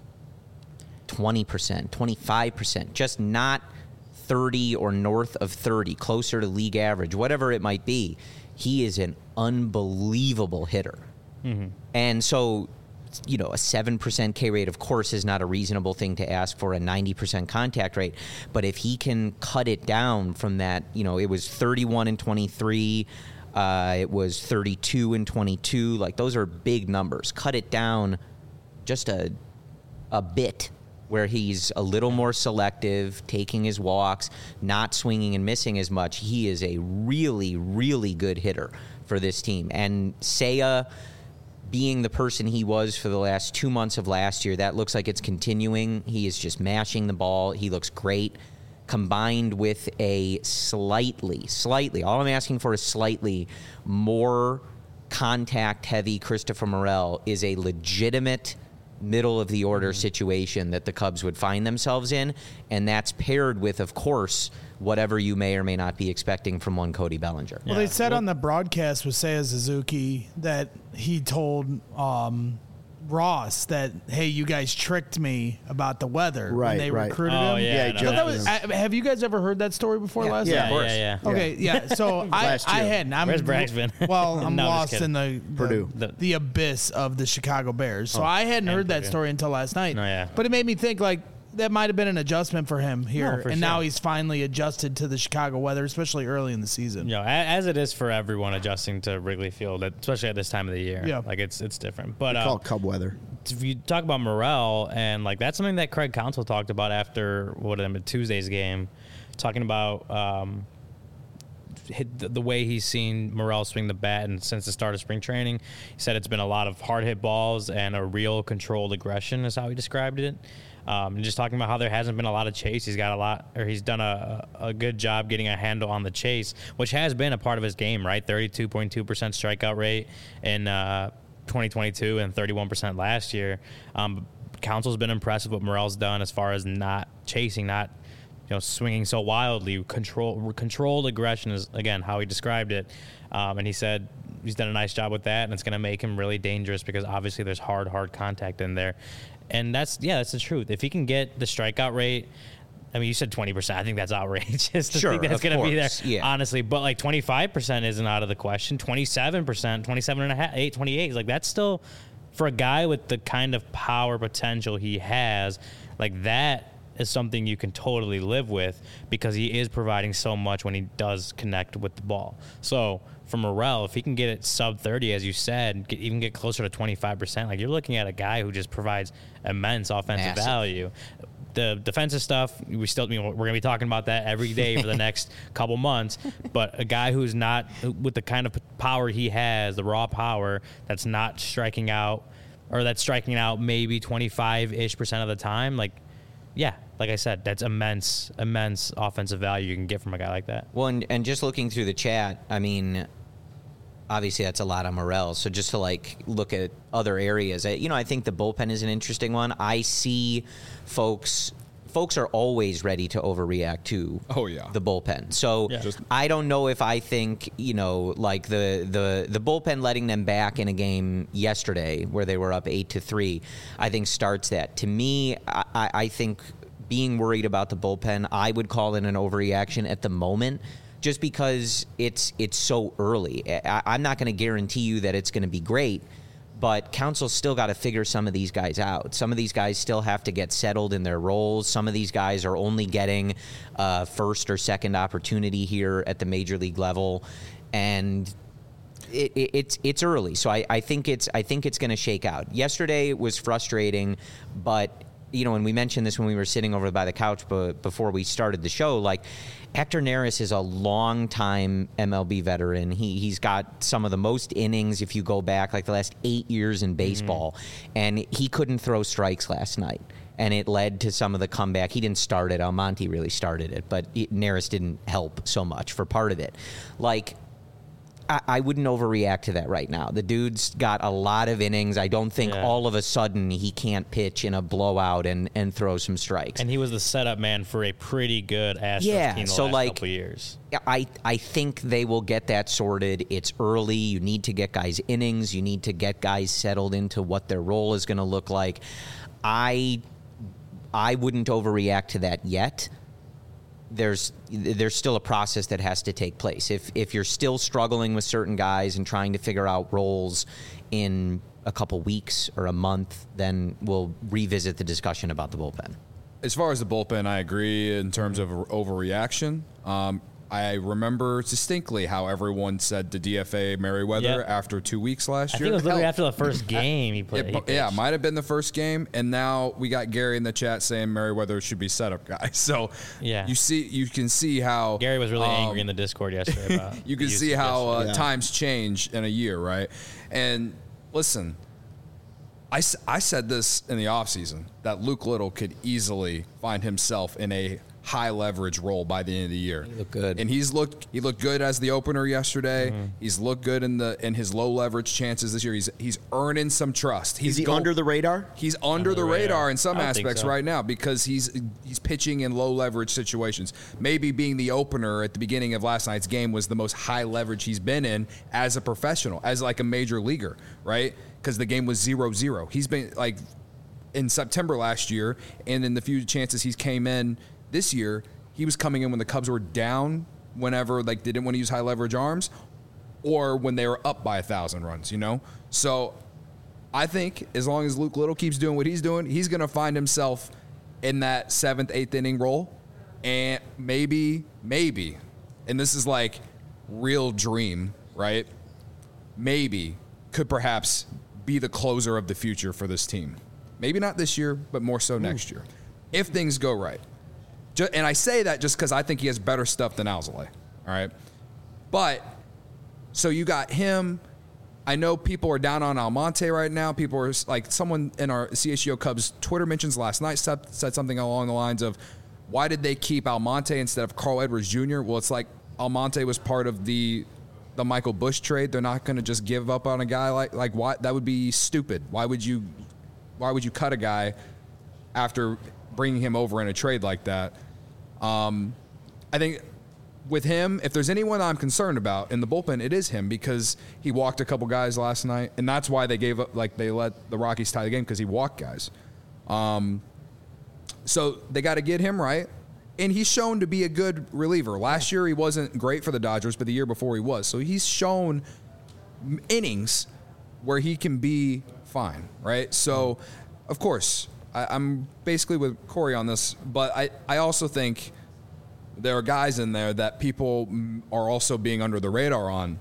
20%, 25%, just not 30 or north of 30, closer to league average, whatever it might be, he is an unbelievable hitter. And so, a 7% K rate, of course, is not a reasonable thing to ask for a 90% contact rate. But if he can cut it down from that, it was 31 and 23, it was 32 and 22. Like, those are big numbers. Cut it down just a bit, where he's a little more selective, taking his walks, not swinging and missing as much. He is a really, really good hitter for this team. And Seiya, being the person he was for the last 2 months of last year, that looks like it's continuing. He is just mashing the ball. He looks great. Combined with a slightly, all I'm asking for is slightly more contact-heavy Christopher Morel is a legitimate middle-of-the-order situation that the Cubs would find themselves in, and that's paired with, of course, whatever you may or may not be expecting from one Cody Bellinger. Well, they said on the broadcast with Seiya Suzuki that he told Ross that, hey, you guys tricked me about the weather when they recruited him. Yeah, Yeah, no, that Have you guys ever heard that story before last Yeah, night? of course. Yeah. Okay, yeah. So I hadn't. Where's Brax been? Well, I'm No, I'm lost just in the Purdue. the abyss of the Chicago Bears. So I hadn't heard that Purdue. story until last night. No, yeah. But it made me think, like, that might have been an adjustment for him here, No, for and sure. now he's finally adjusted to the Chicago weather, especially early in the season. You know, as it is for everyone adjusting to Wrigley Field, especially at this time of the year. Yeah. Like it's different. But Call it Cub weather. if you talk about Morel, and like that's something that Craig Counsell talked about after Tuesday's game, talking about the way he's seen Morel swing the bat, and since the start of spring training, he said it's been a lot of hard hit balls and a real controlled aggression is how he described it. And just talking about how there hasn't been a lot of chase. He's done a good job getting a handle on the chase, which has been a part of his game, right? 32.2% strikeout rate in 2022 and 31% last year. Council's been impressed with what Morel's done as far as not chasing, not swinging so wildly. Controlled aggression is, again, how he described it. And he said he's done a nice job with that, and it's going to make him really dangerous because obviously there's hard contact in there. And that's the truth. If he can get the strikeout rate, I mean, you said 20%. I think that's outrageous to think that's going to be there, honestly. But like 25% isn't out of the question. 27%, 27.5%, 28%. Like that's still, for a guy with the kind of power potential he has, like that is something you can totally live with because he is providing so much when he does connect with the ball. So for Morel, if he can get it sub 30, as you said, even get closer to 25%, like you're looking at a guy who just provides immense offensive value. The defensive stuff, we're going to be talking about that every day for the next couple months. But a guy who's not, with the kind of power he has, the raw power, that's not striking out, or that's striking out maybe 25-ish% of the time, like I said, that's immense offensive value you can get from a guy like that. Well, and just looking through the chat, I mean, obviously that's a lot on Morel. So just to look at other areas, I think the bullpen is an interesting one. I see folks are always ready to overreact to the bullpen. So I don't know if I think, like the bullpen letting them back in a game yesterday where they were up 8-3, I think starts that. To me, I think being worried about the bullpen, I would call it an overreaction at the moment, just because it's so early. I'm not going to guarantee you that it's going to be great, but Council's still got to figure some of these guys out. Some of these guys still have to get settled in their roles. Some of these guys are only getting first or second opportunity here at the major league level, and it's early. So I think it's going to shake out. Yesterday was frustrating, but and we mentioned this when we were sitting over by the couch before we started the show, like Hector Neris is a long-time MLB veteran. He's got some of the most innings if you go back like the last 8 years in baseball, and he couldn't throw strikes last night, and it led to some of the comeback. He didn't start it. Almonte really started it, but Neris didn't help so much for part of it. Like, I wouldn't overreact to that right now. The dude's got a lot of innings. I don't think all of a sudden he can't pitch in a blowout and throw some strikes. And he was the setup man for a pretty good Astros team the last couple years. I think they will get that sorted. It's early. You need to get guys innings. You need to get guys settled into what their role is going to look like. I wouldn't overreact to that yet. There's still a process that has to take place. If you're still struggling with certain guys and trying to figure out roles in a couple weeks or a month, then we'll revisit the discussion about the bullpen. As far as the bullpen, I agree in terms of overreaction. I remember distinctly how everyone said to DFA Merriweather after 2 weeks last year. I think it was literally after the first game he played. It might have been the first game, and now we got Gary in the chat saying Merriweather should be setup guy. So you can see how Gary was really angry in the Discord yesterday about you can see how times change in a year, right? And listen, I said this in the offseason that Luke Little could easily find himself in a high leverage role by the end of the year. He looked good, and he looked good as the opener yesterday. He's looked good in his low leverage chances this year. He's earning some trust. Is he under the radar? He's under the radar in some aspects right now because he's pitching in low leverage situations. Maybe being the opener at the beginning of last night's game was the most high leverage he's been in as a professional, as like a major leaguer, right? Because the game was 0-0. He's been like in September last year, and in the few chances he's came in this year, he was coming in when the Cubs were down whenever they didn't want to use high leverage arms, or when they were up by 1,000 runs, So I think as long as Luke Little keeps doing what he's doing, he's going to find himself in that 7th, 8th inning role. And maybe, and this is like real dream, right? Maybe could perhaps be the closer of the future for this team. Maybe not this year, but more so next year, if things go right. And I say that just because I think he has better stuff than Alzolay, all right? But, so you got him. I know people are down on Almonte right now. People are like, someone in our CHGO Cubs Twitter mentions last night said something along the lines of, why did they keep Almonte instead of Carl Edwards Jr.? Well, it's like Almonte was part of the Michael Busch trade. They're not going to just give up on a guy like why? That would be stupid. Why would you cut a guy after bringing him over in a trade like that? I think with him, if there's anyone I'm concerned about in the bullpen, it is him, because he walked a couple guys last night, and that's why they gave up. Like, they let the Rockies tie the game, because he walked guys. So they got to get him right. And he's shown to be a good reliever. Last year he wasn't great for the Dodgers, but the year before he was. So he's shown innings where he can be fine, right? So, of course, I'm basically with Corey on this, but I also think there are guys in there that people are also being under the radar on.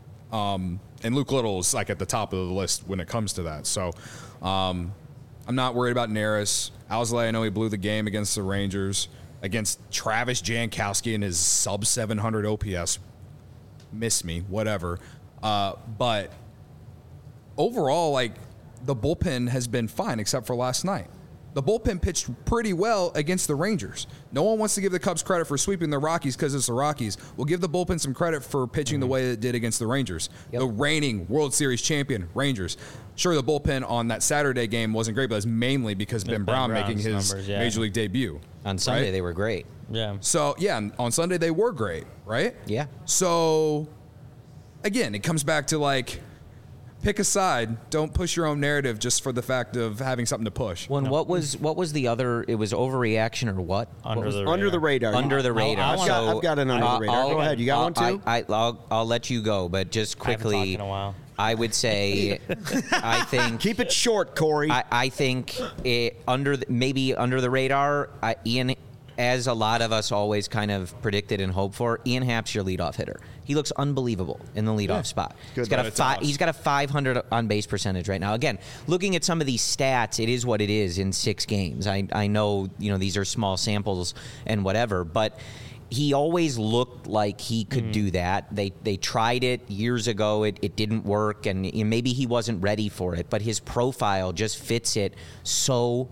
And Luke Little is like at the top of the list when it comes to that. So I'm not worried about Neris. Alzolay, I know he blew the game against the Rangers. Against Travis Jankowski and his sub-700 OPS. Miss me, whatever. But overall, like, the bullpen has been fine except for last night. The bullpen pitched pretty well against the Rangers. No one wants to give the Cubs credit for sweeping the Rockies because it's the Rockies. We'll give the bullpen some credit for pitching the way it did against the Rangers. Yep. The reigning World Series champion, Rangers. Sure, the bullpen on that Saturday game wasn't great, but it's mainly because Ben Brown making his numbers, Major League debut. On Sunday, they were great. Yeah. So, yeah, on Sunday they were great, right? Yeah. So, again, it comes back to, like, pick a side. Don't push your own narrative just for the fact of having something to push. Well, what was the other? It was overreaction or what? Under the radar. Under the radar. I've got an under the radar. Go ahead. You got one too? I'll let you go, but just quickly. I haven't talked in a while. I would say, I think. Keep it short, Corey. I think maybe under the radar. Ian, as a lot of us always kind of predicted and hoped for, Ian Happ's your leadoff hitter. He looks unbelievable in the leadoff spot. He's got a 500 on base percentage right now. Again, looking at some of these stats, it is what it is in 6 games. I know these are small samples and whatever, but he always looked like he could do that. They tried it years ago. It didn't work, and maybe he wasn't ready for it, but his profile just fits it so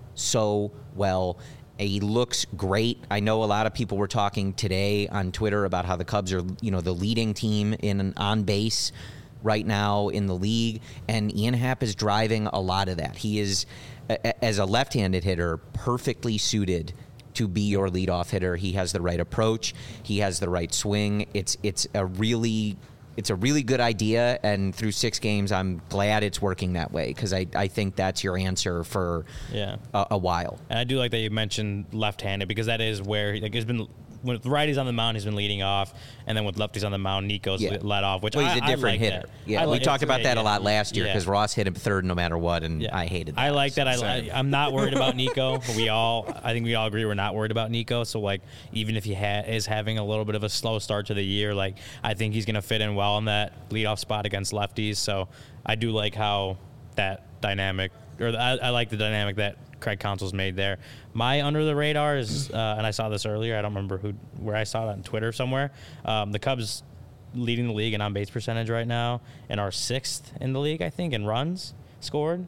well. He looks great. I know a lot of people were talking today on Twitter about how the Cubs are, the leading team in on base right now in the league, and Ian Happ is driving a lot of that. He is, as a left-handed hitter, perfectly suited to be your leadoff hitter. He has the right approach. He has the right swing. It's a really good idea, and through 6 games, I'm glad it's working that way, because I think that's your answer for a while. And I do like that you mentioned left-handed, because that is where it's been. With righties on the mound, he's been leading off, and then with lefties on the mound, Nico's led off. Which he's a different like hitter. That. Yeah, we talked about that a lot last year, because Ross hit him third no matter what, and I hated that. I like that. I'm not worried about Nico. But I think we all agree we're not worried about Nico. So, like, even if he is having a little bit of a slow start to the year, like, I think he's going to fit in well in that leadoff spot against lefties. So I do like how that dynamic, I like the dynamic that Craig Counsell's made there. My under the radar is, and I saw this earlier, I don't remember where I saw it on Twitter somewhere. The Cubs leading the league in on base percentage right now, and are 6th in the league, I think, in runs scored.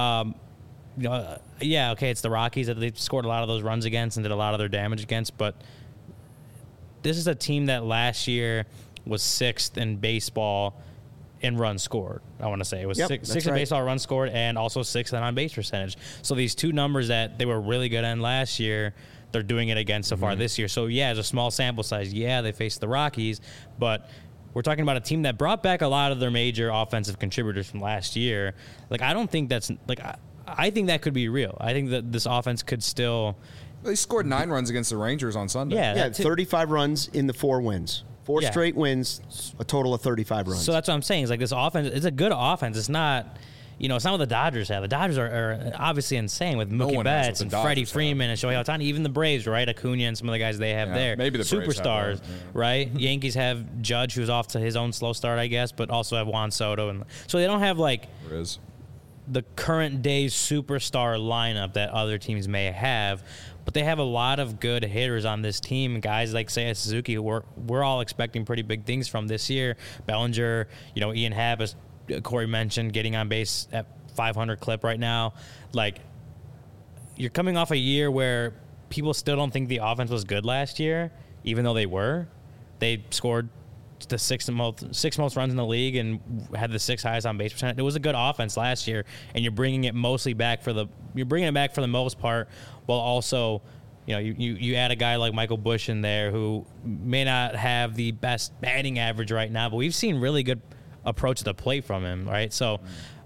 It's the Rockies that they've scored a lot of those runs against and did a lot of their damage against, but this is a team that last year was 6th in baseball in runs scored. I want to say it was 6th in baseball runs scored, and also 6th in on base percentage. So these 2 numbers that they were really good in last year, they're doing it again so far this year. So it's a small sample size. They faced the Rockies, but we're talking about a team that brought back a lot of their major offensive contributors from last year. Like, I don't think that's like, I think that could be real. I think that this offense could still. They scored 9 runs against the Rangers on Sunday. Yeah, 35 runs in the 4 wins. 4 straight wins, a total of 35 runs. So that's what I'm saying. It's like this offense, it's a good offense. It's not, it's not what the Dodgers have. The Dodgers are obviously insane with Mookie one has what Betts the and Dodgers Freddie have. Freeman and Shohei Ohtani. Even the Braves, right? Acuna and some of the guys they have there. maybe the Braves have superstars, that, yeah. right? Yankees have Judge, who's off to his own slow start, I guess, but also have Juan Soto, and so they don't have like Riz. the current day's superstar lineup that other teams may have, but they have a lot of good hitters on this team. Guys like Seiya Suzuki, who we're all expecting pretty big things from this year. Bellinger, Ian Happ, as Corey mentioned, getting on base at 500 clip right now. Like, you're coming off a year where people still don't think the offense was good last year, even though they were. They scored the sixth most runs in the league and had the 6th highest on base percent. It was a good offense last year, and you're bringing it back for the most part, while also, you add a guy like Michael Busch in there who may not have the best batting average right now, but we've seen really good approach to the plate from him, right? So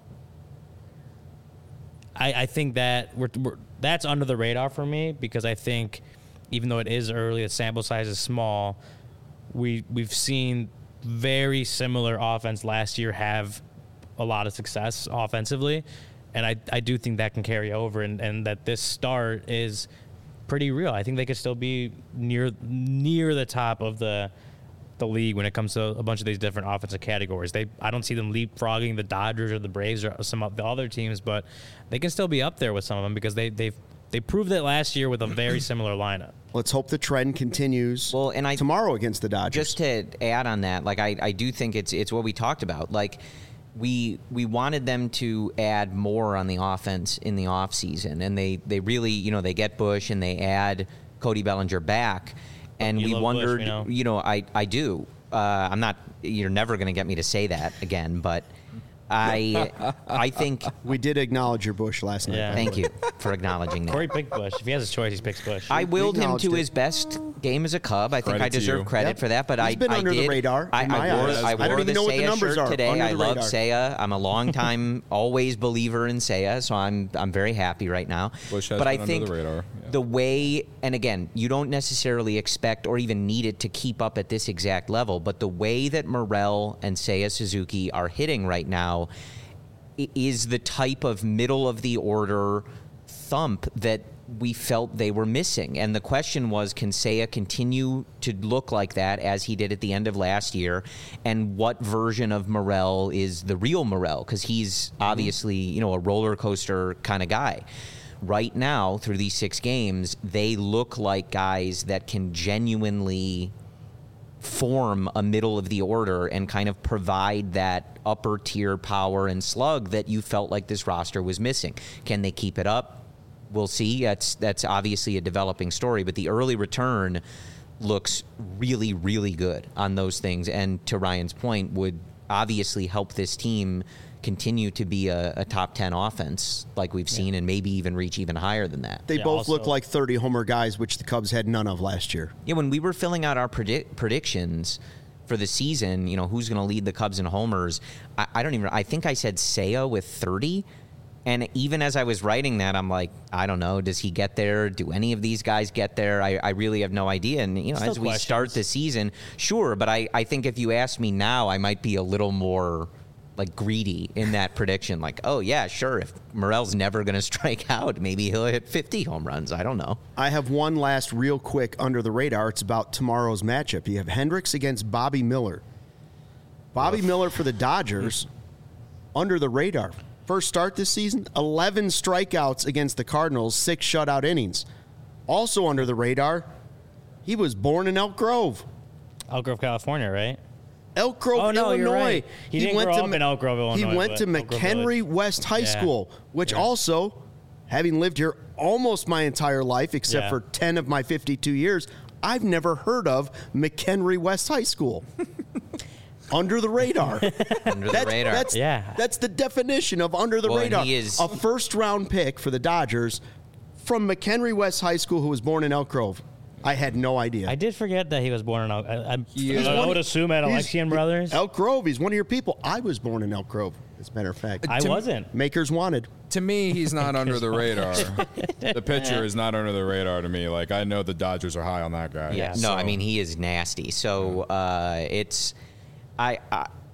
I think that that's under the radar for me, because I think even though it is early, the sample size is small, we've seen very similar offense last year have a lot of success offensively, and I do think that can carry over, and that this start is pretty real. I think they could still be near the top of the league when it comes to a bunch of these different offensive categories. I don't see them leapfrogging the Dodgers or the Braves or some of the other teams, but they can still be up there with some of them, because they proved it last year with a very similar lineup. Let's hope the trend continues tomorrow against the Dodgers. Just to add on that, like I do think it's what we talked about. Like we wanted them to add more on the offense in the offseason, and they really, they get Busch and they add Cody Bellinger back, and we wondered, Busch, I do. I'm not. You're never going to get me to say that again, but I think we did acknowledge your Busch last night. Yeah. Thank you for acknowledging that. Corey picked Busch. If he has his choice, he picks Busch. I willed him to his best game as a Cub. I think I deserve credit for that. But He's been under the radar. I wore the Seiya shirt today. I love Seiya. I'm a long-time, always believer in Seiya, so I'm very happy right now. But I think the way, and again, you don't necessarily expect or even need it to keep up at this exact level, but the way that Morel and Seiya Suzuki are hitting right now is the type of middle-of-the-order thump that we felt they were missing. And the question was, can Seiya continue to look like that as he did at the end of last year? And what version of Morel is the real Morel? Because he's obviously, a roller coaster kind of guy. Right now, through these 6 games, they look like guys that can genuinely form a middle of the order and kind of provide that upper tier power and slug that you felt like this roster was missing. Can they keep it up? We'll see. That's obviously a developing story, but the early return looks really, really good on those things, and to Ryan's point, would obviously help this team continue to be a top 10 offense like we've seen, and maybe even reach even higher than that. They both look like 30-homer guys, which the Cubs had none of last year. Yeah, when we were filling out our predictions for the season, who's going to lead the Cubs in homers, I think I said Seiya with 30. And even as I was writing that, I'm like, I don't know, does he get there? Do any of these guys get there? I really have no idea. And, as we start the season, sure. But I think if you ask me now, I might be a little more greedy in that prediction. Like, oh, yeah, sure. If Morel's never going to strike out, maybe he'll hit 50 home runs. I don't know. I have one last real quick under the radar. It's about tomorrow's matchup. You have Hendricks against Bobby Miller. Bobby Miller for the Dodgers, under the radar. First start this season, 11 strikeouts against the Cardinals, 6 shutout innings. Also under the radar, he was born in Elk Grove. Elk Grove, California, right? Elk Grove, Illinois. You're right. He didn't grow up in Elk Grove, Illinois. He went to McHenry West High School, which also, having lived here almost my entire life, except for 10 of my 52 years, I've never heard of McHenry West High School. Under the radar. Under the radar. That's the definition of under the radar. He is a first-round pick for the Dodgers from McHenry West High School, who was born in Elk Grove. I had no idea. I did forget that he was born in Elk Grove. I would assume at Alexian Brothers. Elk Grove. He's one of your people. I was born in Elk Grove, as a matter of fact. I wasn't. Makers wanted. To me, he's not under the radar. The pitcher is not under the radar to me. Like, I know the Dodgers are high on that guy. Yeah. No, I mean, he is nasty. So it's...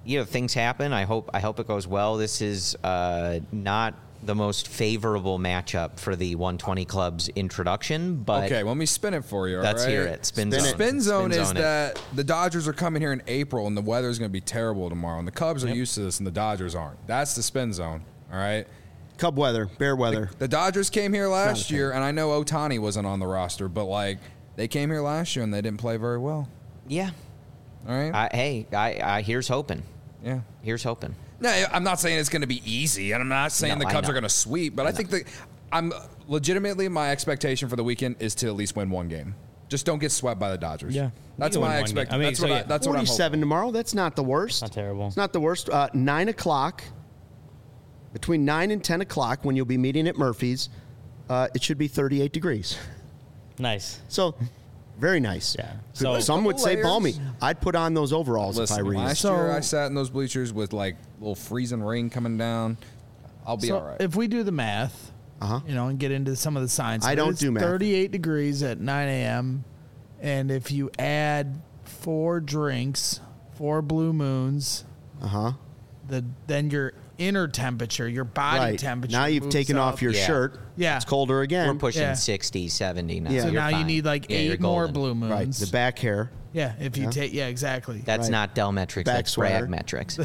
things happen. I hope it goes well. This is not the most favorable matchup for the 120 Club's introduction, but Okay, let me spin it for you. let's all right? hear it. Spin The zone. spin zone Spin is zone it. that the Dodgers are coming here in April and the weather is going to be terrible tomorrow. And the Cubs are used to this and the Dodgers aren't. That's the spin zone. All right. Cub weather, bear weather. The Dodgers came here last a year, and I know Ohtani wasn't on the roster, but like they came here last year and they didn't play very well. Yeah. All right. I here's hoping. Yeah. Here's hoping. No, I'm not saying it's going to be easy, and I'm not saying No, the I Cubs know. are going to sweep, but I think that I'm legitimately my expectation for the weekend is to at least win one game. Just don't get swept by the Dodgers. Yeah. That's You can my win one game. expectation. I mean, That's so what yeah. that's what I'm hoping. 47 tomorrow. That's not the worst. Not terrible. It's not the worst. 9 o'clock. Between 9 and 10 o'clock, when you'll be meeting at Murphy's, it should be 38 degrees. Nice. So, very nice. Yeah. So So- some would Couple say layers. balmy. I'd put on those overalls Listen, if I were you. last So- year I sat in those bleachers with like little freezing rain coming down. I'll be So all right. if we do the math, Uh-huh. and get into some of the science, I don't it's do math. 38 degrees at 9 a.m. And if you add 4 drinks, 4 blue moons, Uh-huh. then your inner temperature, your body Right. temperature. Now you've moves taken up. off your Yeah. shirt. Yeah. It's colder again. We're pushing Yeah. 60, 70 now. Yeah. So You're now you fine. need like Yeah, you're 8 more golden. blue moons. Right. The back hair. Yeah, if you take exactly. That's Right. not Dell metrics. Back That's sweater. Brad metrics.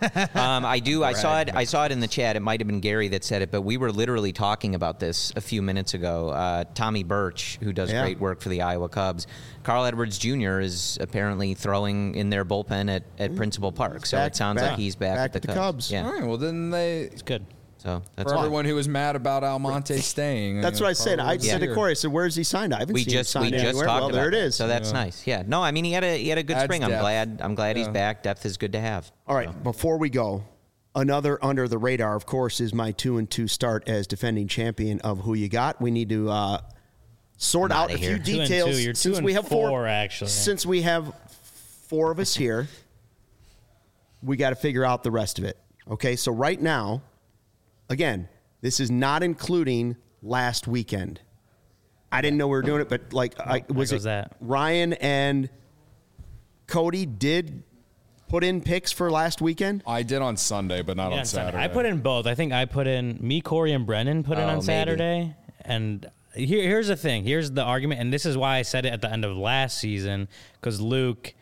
I saw it in the chat. It might have been Gary that said it, but we were literally talking about this a few minutes ago. Tommy Birch, who does Yeah. great work for the Iowa Cubs, Carl Edwards Jr. is apparently throwing in their bullpen at Principal Park. So Back- it sounds back- like he's back, back at the at the Cubs. Yeah. all right. Well, then they It's good. So that's for fine. everyone who was mad about Almonte staying. That's what I said. I said to Yeah. Corey, I said, where's he signed? I haven't We seen him just signed talked anywhere. about Well, there it that. is. So that's nice. Yeah. No, I mean he had a good Adds spring. depth. I'm glad he's Yeah. back. Depth is good to have. All right, before we go, another under the radar, of course, is my 2-2 start as defending champion of Who You Got. We need to sort I'm out outta a few here. 2 and details. 2. You're since 2 we and have 4, actually. Since we have 4 of us here, we got to figure out the rest of it. Okay, so right now, again, this is not including last weekend. I didn't know we were doing it, but was goes it that. Ryan and Cody did put in picks for last weekend? I did on Sunday, but not Yeah, on on Sunday. Saturday. I put in both. I think I put in me, Corey, and Brennan put in Oh, on maybe. Saturday. And here's the thing. Here's the argument, and this is why I said it at the end of last season, because Luke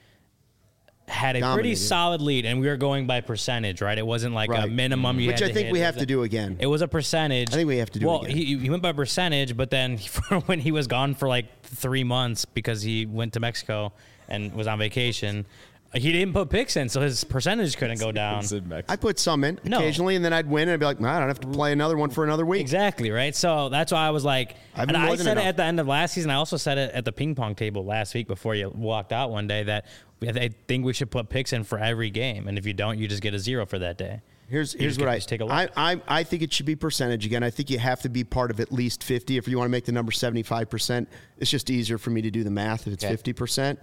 had a pretty Dominated. solid lead, and we were going by percentage, right? It wasn't like a Right. minimum you Which had I to think hit. we It have was to do again. It was a percentage. I think we have to do it well, again. he went by percentage, but then when he was gone for like 3 months because he went to Mexico and was on vacation, he didn't put picks in, so his percentage couldn't go down. I put some in No. occasionally, and then I'd win, and I'd be like, I don't have to play another one for another week. Exactly, right? So that's why I was like, I've and been more I than said it enough. at the end of last season. I also said it at the ping pong table last week before you walked out one day that I think we should put picks in for every game. And if you don't, you just get a 0 for that day. Here's just what get- I just take a look. I think it should be percentage again. I think you have to be part of at least 50. If you want to make the number 75%, it's just easier for me to do the math if it's Okay. 50%.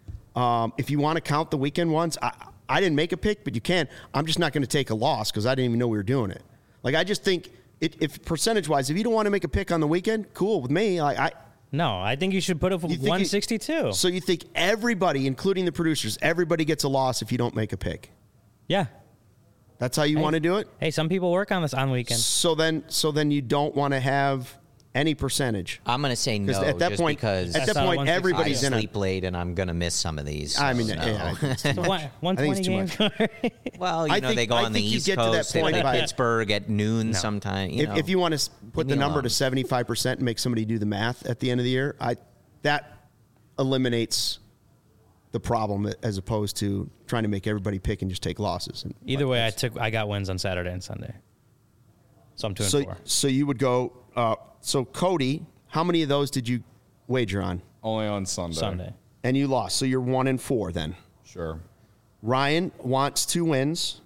If you want to count the weekend ones, I didn't make a pick, but you can. I'm just not going to take a loss because I didn't even know we were doing it. Like I just think if percentage wise, if you don't want to make a pick on the weekend, cool with me. No, I think you should put it for You think you- 162. So you think everybody, including the producers, everybody gets a loss if you don't make a pick? Yeah. That's how you want to do it? Hey, some people work on this on weekends. So then you don't want to have any percentage. I'm going to say no, At that just point, because at that That's not point, 160. I everybody's in it. sleep late and I'm going to miss some of these. I mean, so no. yeah, it's too much. 120 too games. Well, I know, think- they go I on the think you East get to that Coast. They point play by- Pittsburgh at noon sometime. If you want to put the me number alone. to 75% and make somebody do the math at the end of the year, that eliminates the problem as opposed to trying to make everybody pick and just take losses. And Either way, I got wins on Saturday and Sunday. So I'm 2 and 4. So you would go. So Cody, how many of those did you wager on? Only on Sunday. Sunday. And you lost. So you're 1 and 4 then. Sure. Ryan wants 2 wins.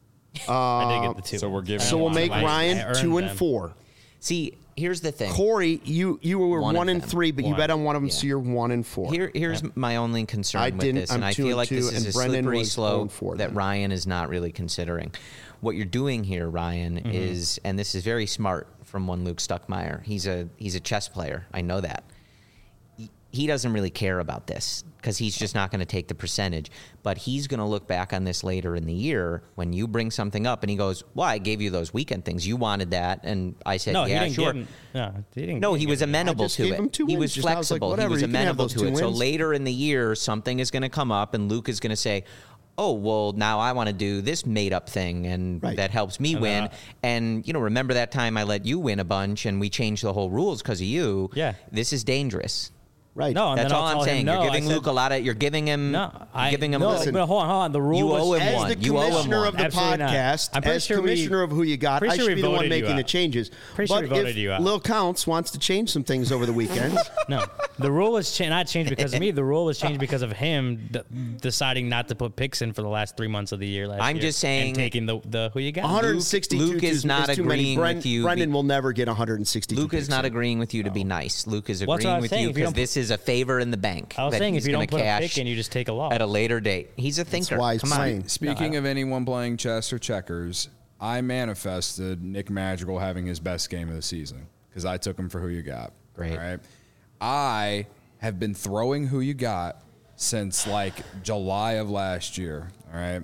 I did get the 2. so we're giving- So we'll make I Ryan earned 2 and them. 4. See, here's the thing. Corey, you were One of 1 and them. 3, but you One. bet on one of them, Yeah. so you're 1 and 4. Here's my only concern I with didn't. this, and I'm I 2 feel and like 2, this is and a Brendan slippery was 0 and slope 4 that then. Ryan is not really considering. What you're doing here, Ryan, is, and this is very smart from one Luke Stuckmeyer. He's a chess player. I know that. he doesn't really care about this because he's just not going to take the percentage. But he's going to look back on this later in the year when you bring something up and he goes, well, I gave you those weekend things. You wanted that. And I said, No, yeah, he didn't sure. he didn't. No, he was amenable just to gave it. him 2 He wins. was Just I was like, flexible. whatever, He was you can have amenable those to 2 it. So wins. later in the year, something is going to come up and Luke is going to say, oh, well, now I want to do this made-up thing, and Right. that helps me win. And, remember that time I let you win a bunch and we changed the whole rules because of you? Yeah. This is dangerous. Right. No, and That's then all I'll I'm tell him saying. no. You're giving I said- Luke a lot of. You're giving him. No, giving him. no. Listen, But hold on. The rule you was owe him As one. the You owe him commissioner one. of the Absolutely not. podcast, I'm pretty as sure commissioner of Who You Got, I pretty sure should we be the one voted you making the out. changes. Pretty sure But we voted if you out. Lil Counts wants to change some things over the weekend, No, the rule was not changed because of me. The rule was changed because of him deciding not to put picks in for the last 3 months of the year. I'm year just saying- and taking the Who You Got. 162 Luke is not too many. agreeing with you. Brendan will never get 162. Luke is picks not in. agreeing with you to be nice. Luke is Well, that's what I agreeing was with saying. you If you because don't- this is a favor in the bank. I was that saying he's if you gonna don't put a cash pick in, you just take a loss. at a later date. He's a thinker. why he's Come on. playing. Speaking of anyone playing chess or checkers, I manifested Nick Madrigal having his best game of the season because I took him for Who You Got. Great. All right. I have been throwing Who You Got since like July of last year. All right.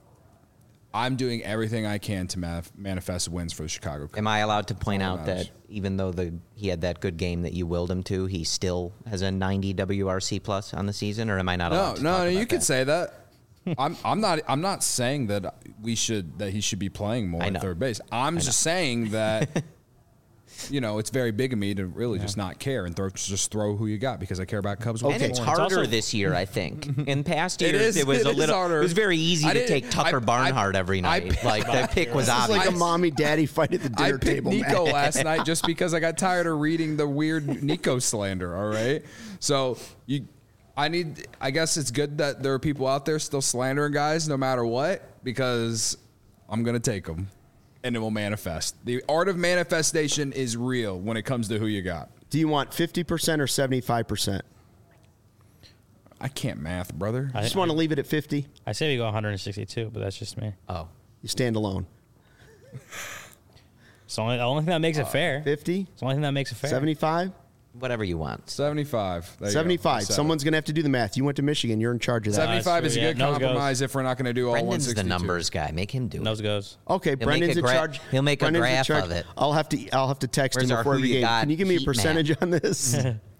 I'm doing everything I can to manifest wins for the Chicago Cubs. Am I allowed to point all that out matters. that even though he had that good game that you willed him to, he still has a 90 WRC plus on the season, or am I not allowed to No, talk no, about you could that? say that. I'm not saying that he should be playing more I at know. third base. I'm just saying that it's very big of me to really just not care and just throw Who You Got because I care about Cubs. And Okay. it's It's harder also- this year, I think. In past It years, is- it was it a is little. harder. It was very easy I to didn't- take Tucker Barnhart every night. Like that pick was This is obvious. like a mommy daddy fight at the I dinner picked table. Nico man. last night just because I got tired of reading the weird Nico slander. All right, so I guess it's good that there are people out there still slandering guys no matter what because I'm gonna take them and it will manifest. The art of manifestation is real when it comes to Who You Got. Do you want 50% or 75%? I can't math, brother. I just want to leave it at 50. I say we go 162, but that's just me. Oh, You stand alone. It's the only thing that makes it fair. 50, It's the only thing that makes it fair. 75, whatever you want. 75. There you go. 75. Seven. Someone's going to have to do the math. You went to Michigan. You're in charge of that. 75 is a Yeah, good nose goes. compromise if we're not going to do all Brendan's the 162. numbers guy. Make him do it. Nose goes. Okay, He'll Brendan's make a in charge. he'll make a Brendan's in graph charge. of it. I'll have to text Where's him our before Who every You game. Got Can you give me a heat map? percentage on this?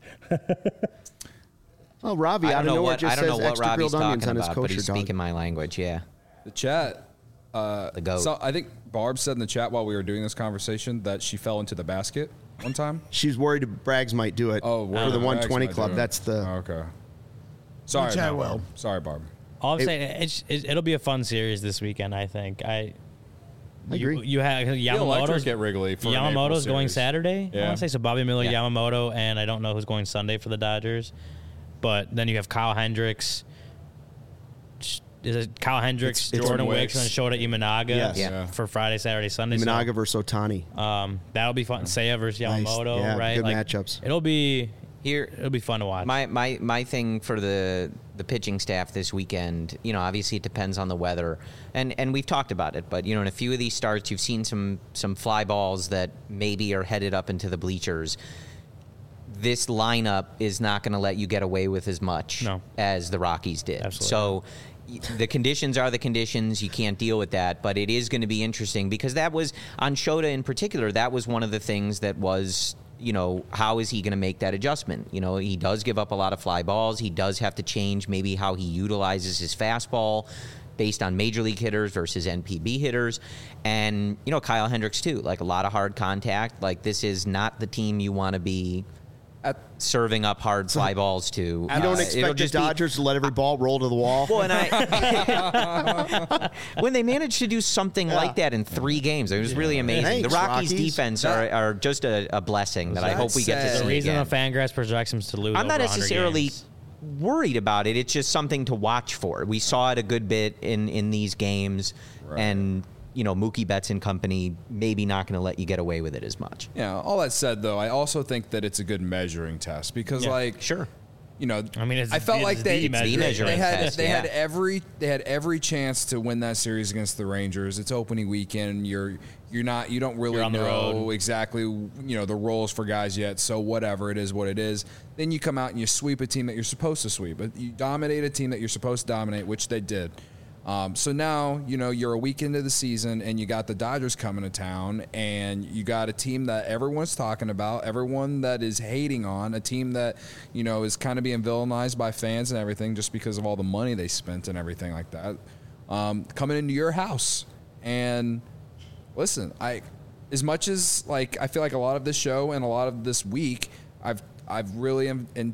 Oh, Robbie, I out don't of know nowhere what just I don't know says what extra Robbie's grilled onions talking on his about, but kosher he's dog. speaking my language. Yeah, The chat. the goat. So I think Barb said in the chat while we were doing this conversation that she fell into the basket one time. She's worried Braggs might do it Oh, for word the of 120 X, club. might do it. That's the. Okay. Sorry, Which I no, will. Barb. Sorry, Barb. All I'm saying, it'll be a fun series this weekend. I think. I agree. You have The electric Yamamoto's at Wrigley for an April Yamamoto's going series. Saturday. I Yeah. want to say so. Bobby Miller, Yeah. Yamamoto, and I don't know who's going Sunday for the Dodgers. But then you have Kyle Hendricks. Is it Kyle Hendricks, It's Jordan Wicks. Wicks, and Shota Imanaga Yes. Yeah. for Friday, Saturday, Sunday? So, Minaga versus Otani. that'll be fun. Seiya versus Nice. Yamamoto, Yeah, right? good matchups. It'll be Here, it'll be fun to watch. my thing for the pitching staff this weekend, obviously it depends on the weather, and we've talked about it, but in a few of these starts, you've seen some fly balls that maybe are headed up into the bleachers. This lineup is not going to let you get away with as much No. as the Rockies did. Absolutely. So the conditions are the conditions. You can't deal with that, but it is going to be interesting because that was, on Shota in particular, that was one of the things that was, how is he going to make that adjustment? He does give up a lot of fly balls. He does have to change maybe how he utilizes his fastball based on major league hitters versus NPB hitters. And, Kyle Hendricks too, like a lot of hard contact. Like this is not the team you want to be serving up hard fly balls to. You don't It'll expect the just be- Dodgers to let every ball roll to the wall. Well, and when they managed to do something like that in 3 games, it was really amazing. Thanks, the Rockies' Rockies. defense are just a blessing that I That hope we get to said- see the reason again. the Fangraphs projects him to lose. I'm not over 100 necessarily games. worried about it. It's just something to watch for. We saw it a good bit in these games, and Mookie Betts and company maybe not going to let you get away with it as much. Yeah, all that said, though, I also think that it's a good measuring test because, Yeah. like, Sure. you know, I mean, I felt like they measuring test, they had every chance to win that series against the Rangers. It's opening weekend. You don't really on the know road. exactly, you know, the roles for guys yet. So whatever, it is what it is. Then you come out and you sweep a team that you're supposed to sweep. But you dominate a team that you're supposed to dominate, which they did. So now, you know, you're a week into the season and you got the Dodgers coming to town and you got a team that everyone's talking about, everyone that is hating on, a team that, you know, is kind of being villainized by fans and everything just because of all the money they spent and everything like that, coming into your house. And listen, as much as like I feel like a lot of this show and a lot of this week, I've really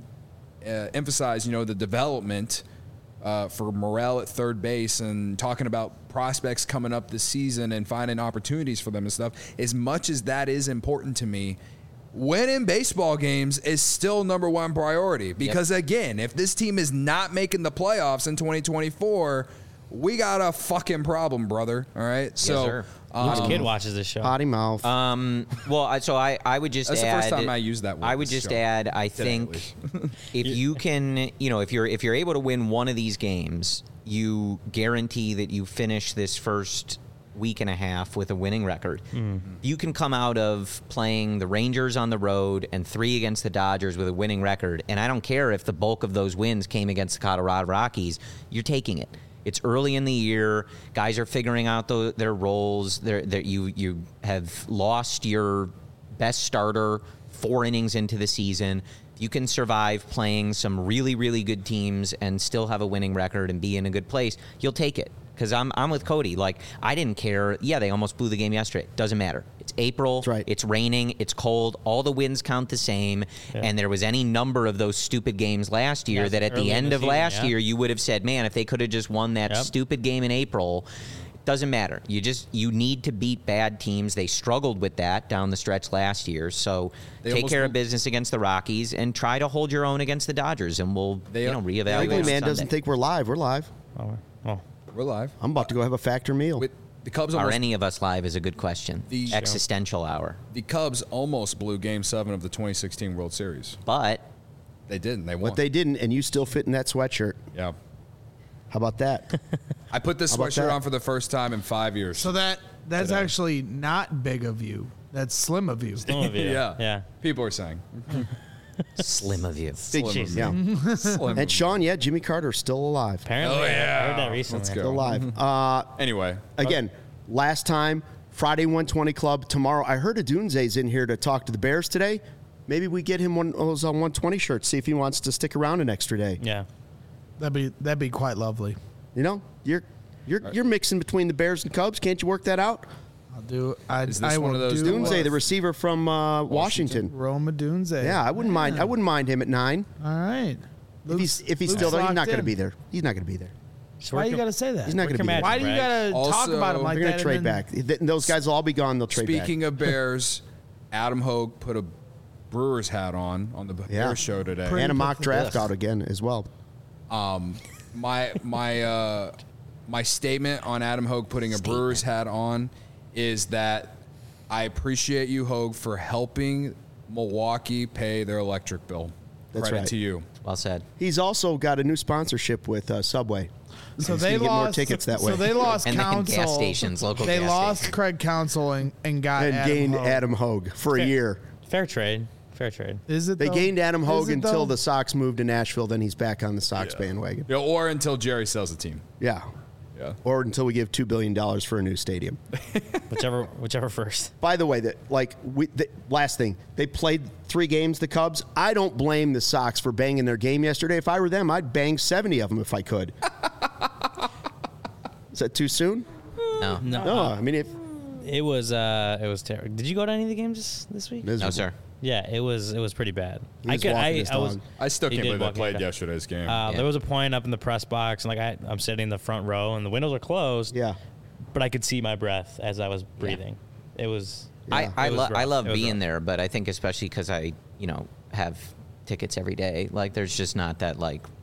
emphasized, you know, the development for Morel at third base and talking about prospects coming up this season and finding opportunities for them and stuff. As much as that is important to me, winning baseball games is still number one priority. Because again, if this team is not making the playoffs in 2024, we got a fucking problem, brother. All right. So, sir. Which kid watches this show? Potty mouth. Well, I would just That's add. the first time I used that word. I would this just show. add. I Today, think at least. if you can, you know, if you're able to win one of these games, you guarantee that you finish this first week and a half with a winning record. You can come out of playing the Rangers on the road and 3 against the Dodgers with a winning record, and I don't care if the bulk of those wins came against the Colorado Rockies. You're taking it. It's early in the year. Guys are figuring out their roles. You have lost your best starter 4 innings into the season. You can survive playing some really, really good teams and still have a winning record and be in a good place. You'll take it. Because I'm with Cody. Like, I didn't care. Yeah, they almost blew the game yesterday. Doesn't matter. It's April. That's right. It's raining. It's cold. All the wins count the same. Yeah. And there was any number of those stupid games last year Yeah, that at early the in end the of season, last yeah. year, you would have said, man, if they could have just won that Yep. stupid game in April. Doesn't matter. You need to beat bad teams. They struggled with that down the stretch last year. So They take almost care of moved- business against the Rockies and try to hold your own against the Dodgers, and we'll reevaluate. Wrigley on man doesn't Sunday. think we're live. We're live. Oh, We're live. I'm about to go have a factor meal. With the Cubs Are almost, any of us live is a good question. The- Existential hour. the Cubs almost blew Game 7 of the 2016 World Series. But They didn't. They won. But they didn't, and you still fit in that sweatshirt. Yeah. How about that? I put this How about sweatshirt that? on for the first time in 5 years. So that's Today. actually not big of you. That's slim of you. some of you. yeah. Yeah. People are saying. slim of you. Big Slim cheese. of Yeah. Slim. And Sean, yeah, Jimmy Carter's still alive. Apparently, Oh, yeah. I heard that recently. Let's go. Still alive. Anyway. Again, last time, Friday 120 Club. Tomorrow, I heard Adunze's in here to talk to the Bears today. Maybe we get him one of those 120 shirts, see if he wants to stick around an extra day. Yeah. That'd be quite lovely. You know, you're mixing between the Bears and Cubs. Can't you work that out? I'll do. I Is this I one will of those do Dunze, the receiver from Washington. Roma Dunze. Yeah, I wouldn't mind. I wouldn't mind him at 9. All right. If he's Luke's still there, he's locked not going to in. be there. He's not going to be there. So Why work you your- gotta say that? He's not work going to your be there. magic, Why do you Braggs. gotta talk Also, about him like They're going that? to trade and then- back. Those guys will all be gone. They'll trade back. Speaking of Bears, Adam Hogue put a Brewers hat on the Yeah. Bears show today. Pretty And a mock quick- draft out again as well. My statement on Adam Hogue putting a Brewers hat on is that I appreciate you, Hogue, for helping Milwaukee pay their electric bill. That's Credit right. to you. Well said. He's also got a new sponsorship with Subway. So He's they gonna get more lost tickets that way. So they lost And then counsel. gas stations, local They gas lost stations. Craig Counsell and got And Adam gained Hogue. Adam Hogue for a Fair. year. Fair trade. Fair trade. Is it? They though? gained Adam Is Hogue it, until though? the Sox moved to Nashville. Then he's back on the Sox bandwagon. Yeah, or until Jerry sells the team. Yeah. Yeah. Or until we give $2 billion for a new stadium. Whichever first. By the way, last thing, they played 3 games, the Cubs. I don't blame the Sox for banging their game yesterday. If I were them, I'd bang 70 of them if I could. Is that too soon? No. No, I mean, if It was terrible. Did you go to any of the games this week? No, sir. Yeah, it was pretty bad. He was walking his dog. I still He can't did believe they walk played it. yesterday's game. There was a point up in the press box, and I'm sitting in the front row, and the windows are closed. yeah. But I could see my breath as I was breathing. It was. Yeah. I It was love rough. It was being rough. there, but I think especially because I have tickets every day. Like there's just not that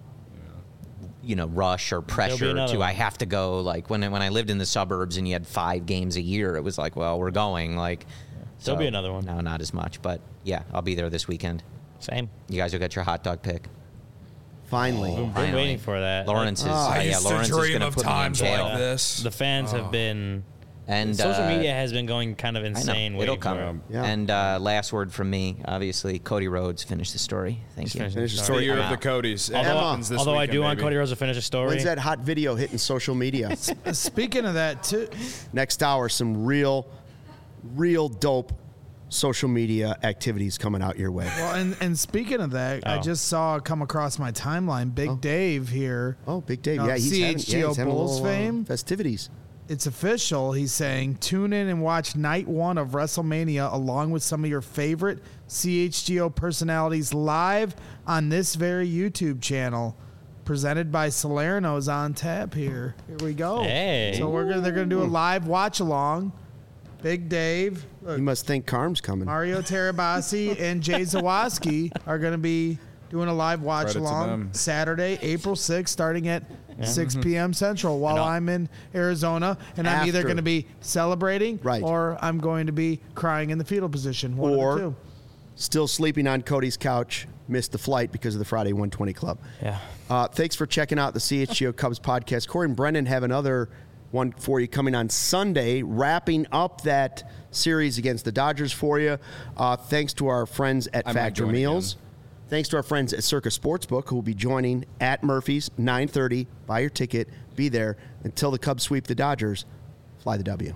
rush or pressure another to one. I have to go. Like when I lived in the suburbs and you had 5 games a year, it was like, well, we're going. Like There'll be another one. No, not as much, but yeah, I'll be there this weekend. Same. You guys will get your hot dog pick. Finally. We've been waiting for that. Lawrence is I used to Lawrence is dream going to of put me in times jail. like this. The fans have been. And Social media has been going kind of I know. insane. It'll waiting come. for him. Yeah. And last word from me, obviously, Cody Rhodes finished the story. Thank you. Finish the story. The year I'm of the out. Codys. It Although, happens this I weekend, do want baby. Cody Rhodes to finish a story. When's that hot video hitting social media? Speaking of that, too, Next hour, some real dope social media activities coming out your way. well, and speaking of that, I Oh. just saw come across my timeline. Big Dave here. Oh, Big Dave. No, Yeah, he's CHGO having a Bulls little, fame. festivities. It's official. He's saying, tune in and watch night 1 of WrestleMania along with some of your favorite CHGO personalities live on this very YouTube channel. Presented by Salerno's on tap here. Here we go. Hey. So they're gonna do a live watch along. Big Dave, look, You must think Carm's coming. Mario Terabasi and Jay Zawoski are gonna be doing a live watch Credit to along them. Saturday, April 6th, starting at 6 p.m. Central while I'm in Arizona, and I'm either After. going to be celebrating Right. or I'm going to be crying in the fetal position. One Or- of the two. Still sleeping on Cody's couch, missed the flight because of the Friday 120 Club. Yeah. Thanks for checking out the CHGO Cubs podcast. Corey and Brendan have another one for you coming on Sunday, wrapping up that series against the Dodgers for you. Thanks to our friends at I might Factor join Meals. again. Thanks to our friends at Circa Sportsbook, who will be joining at Murphy's 9:30. Buy your ticket. Be there. Until the Cubs sweep the Dodgers, fly the W.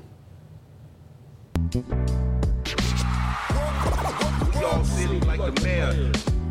Y'all silly like the mayor.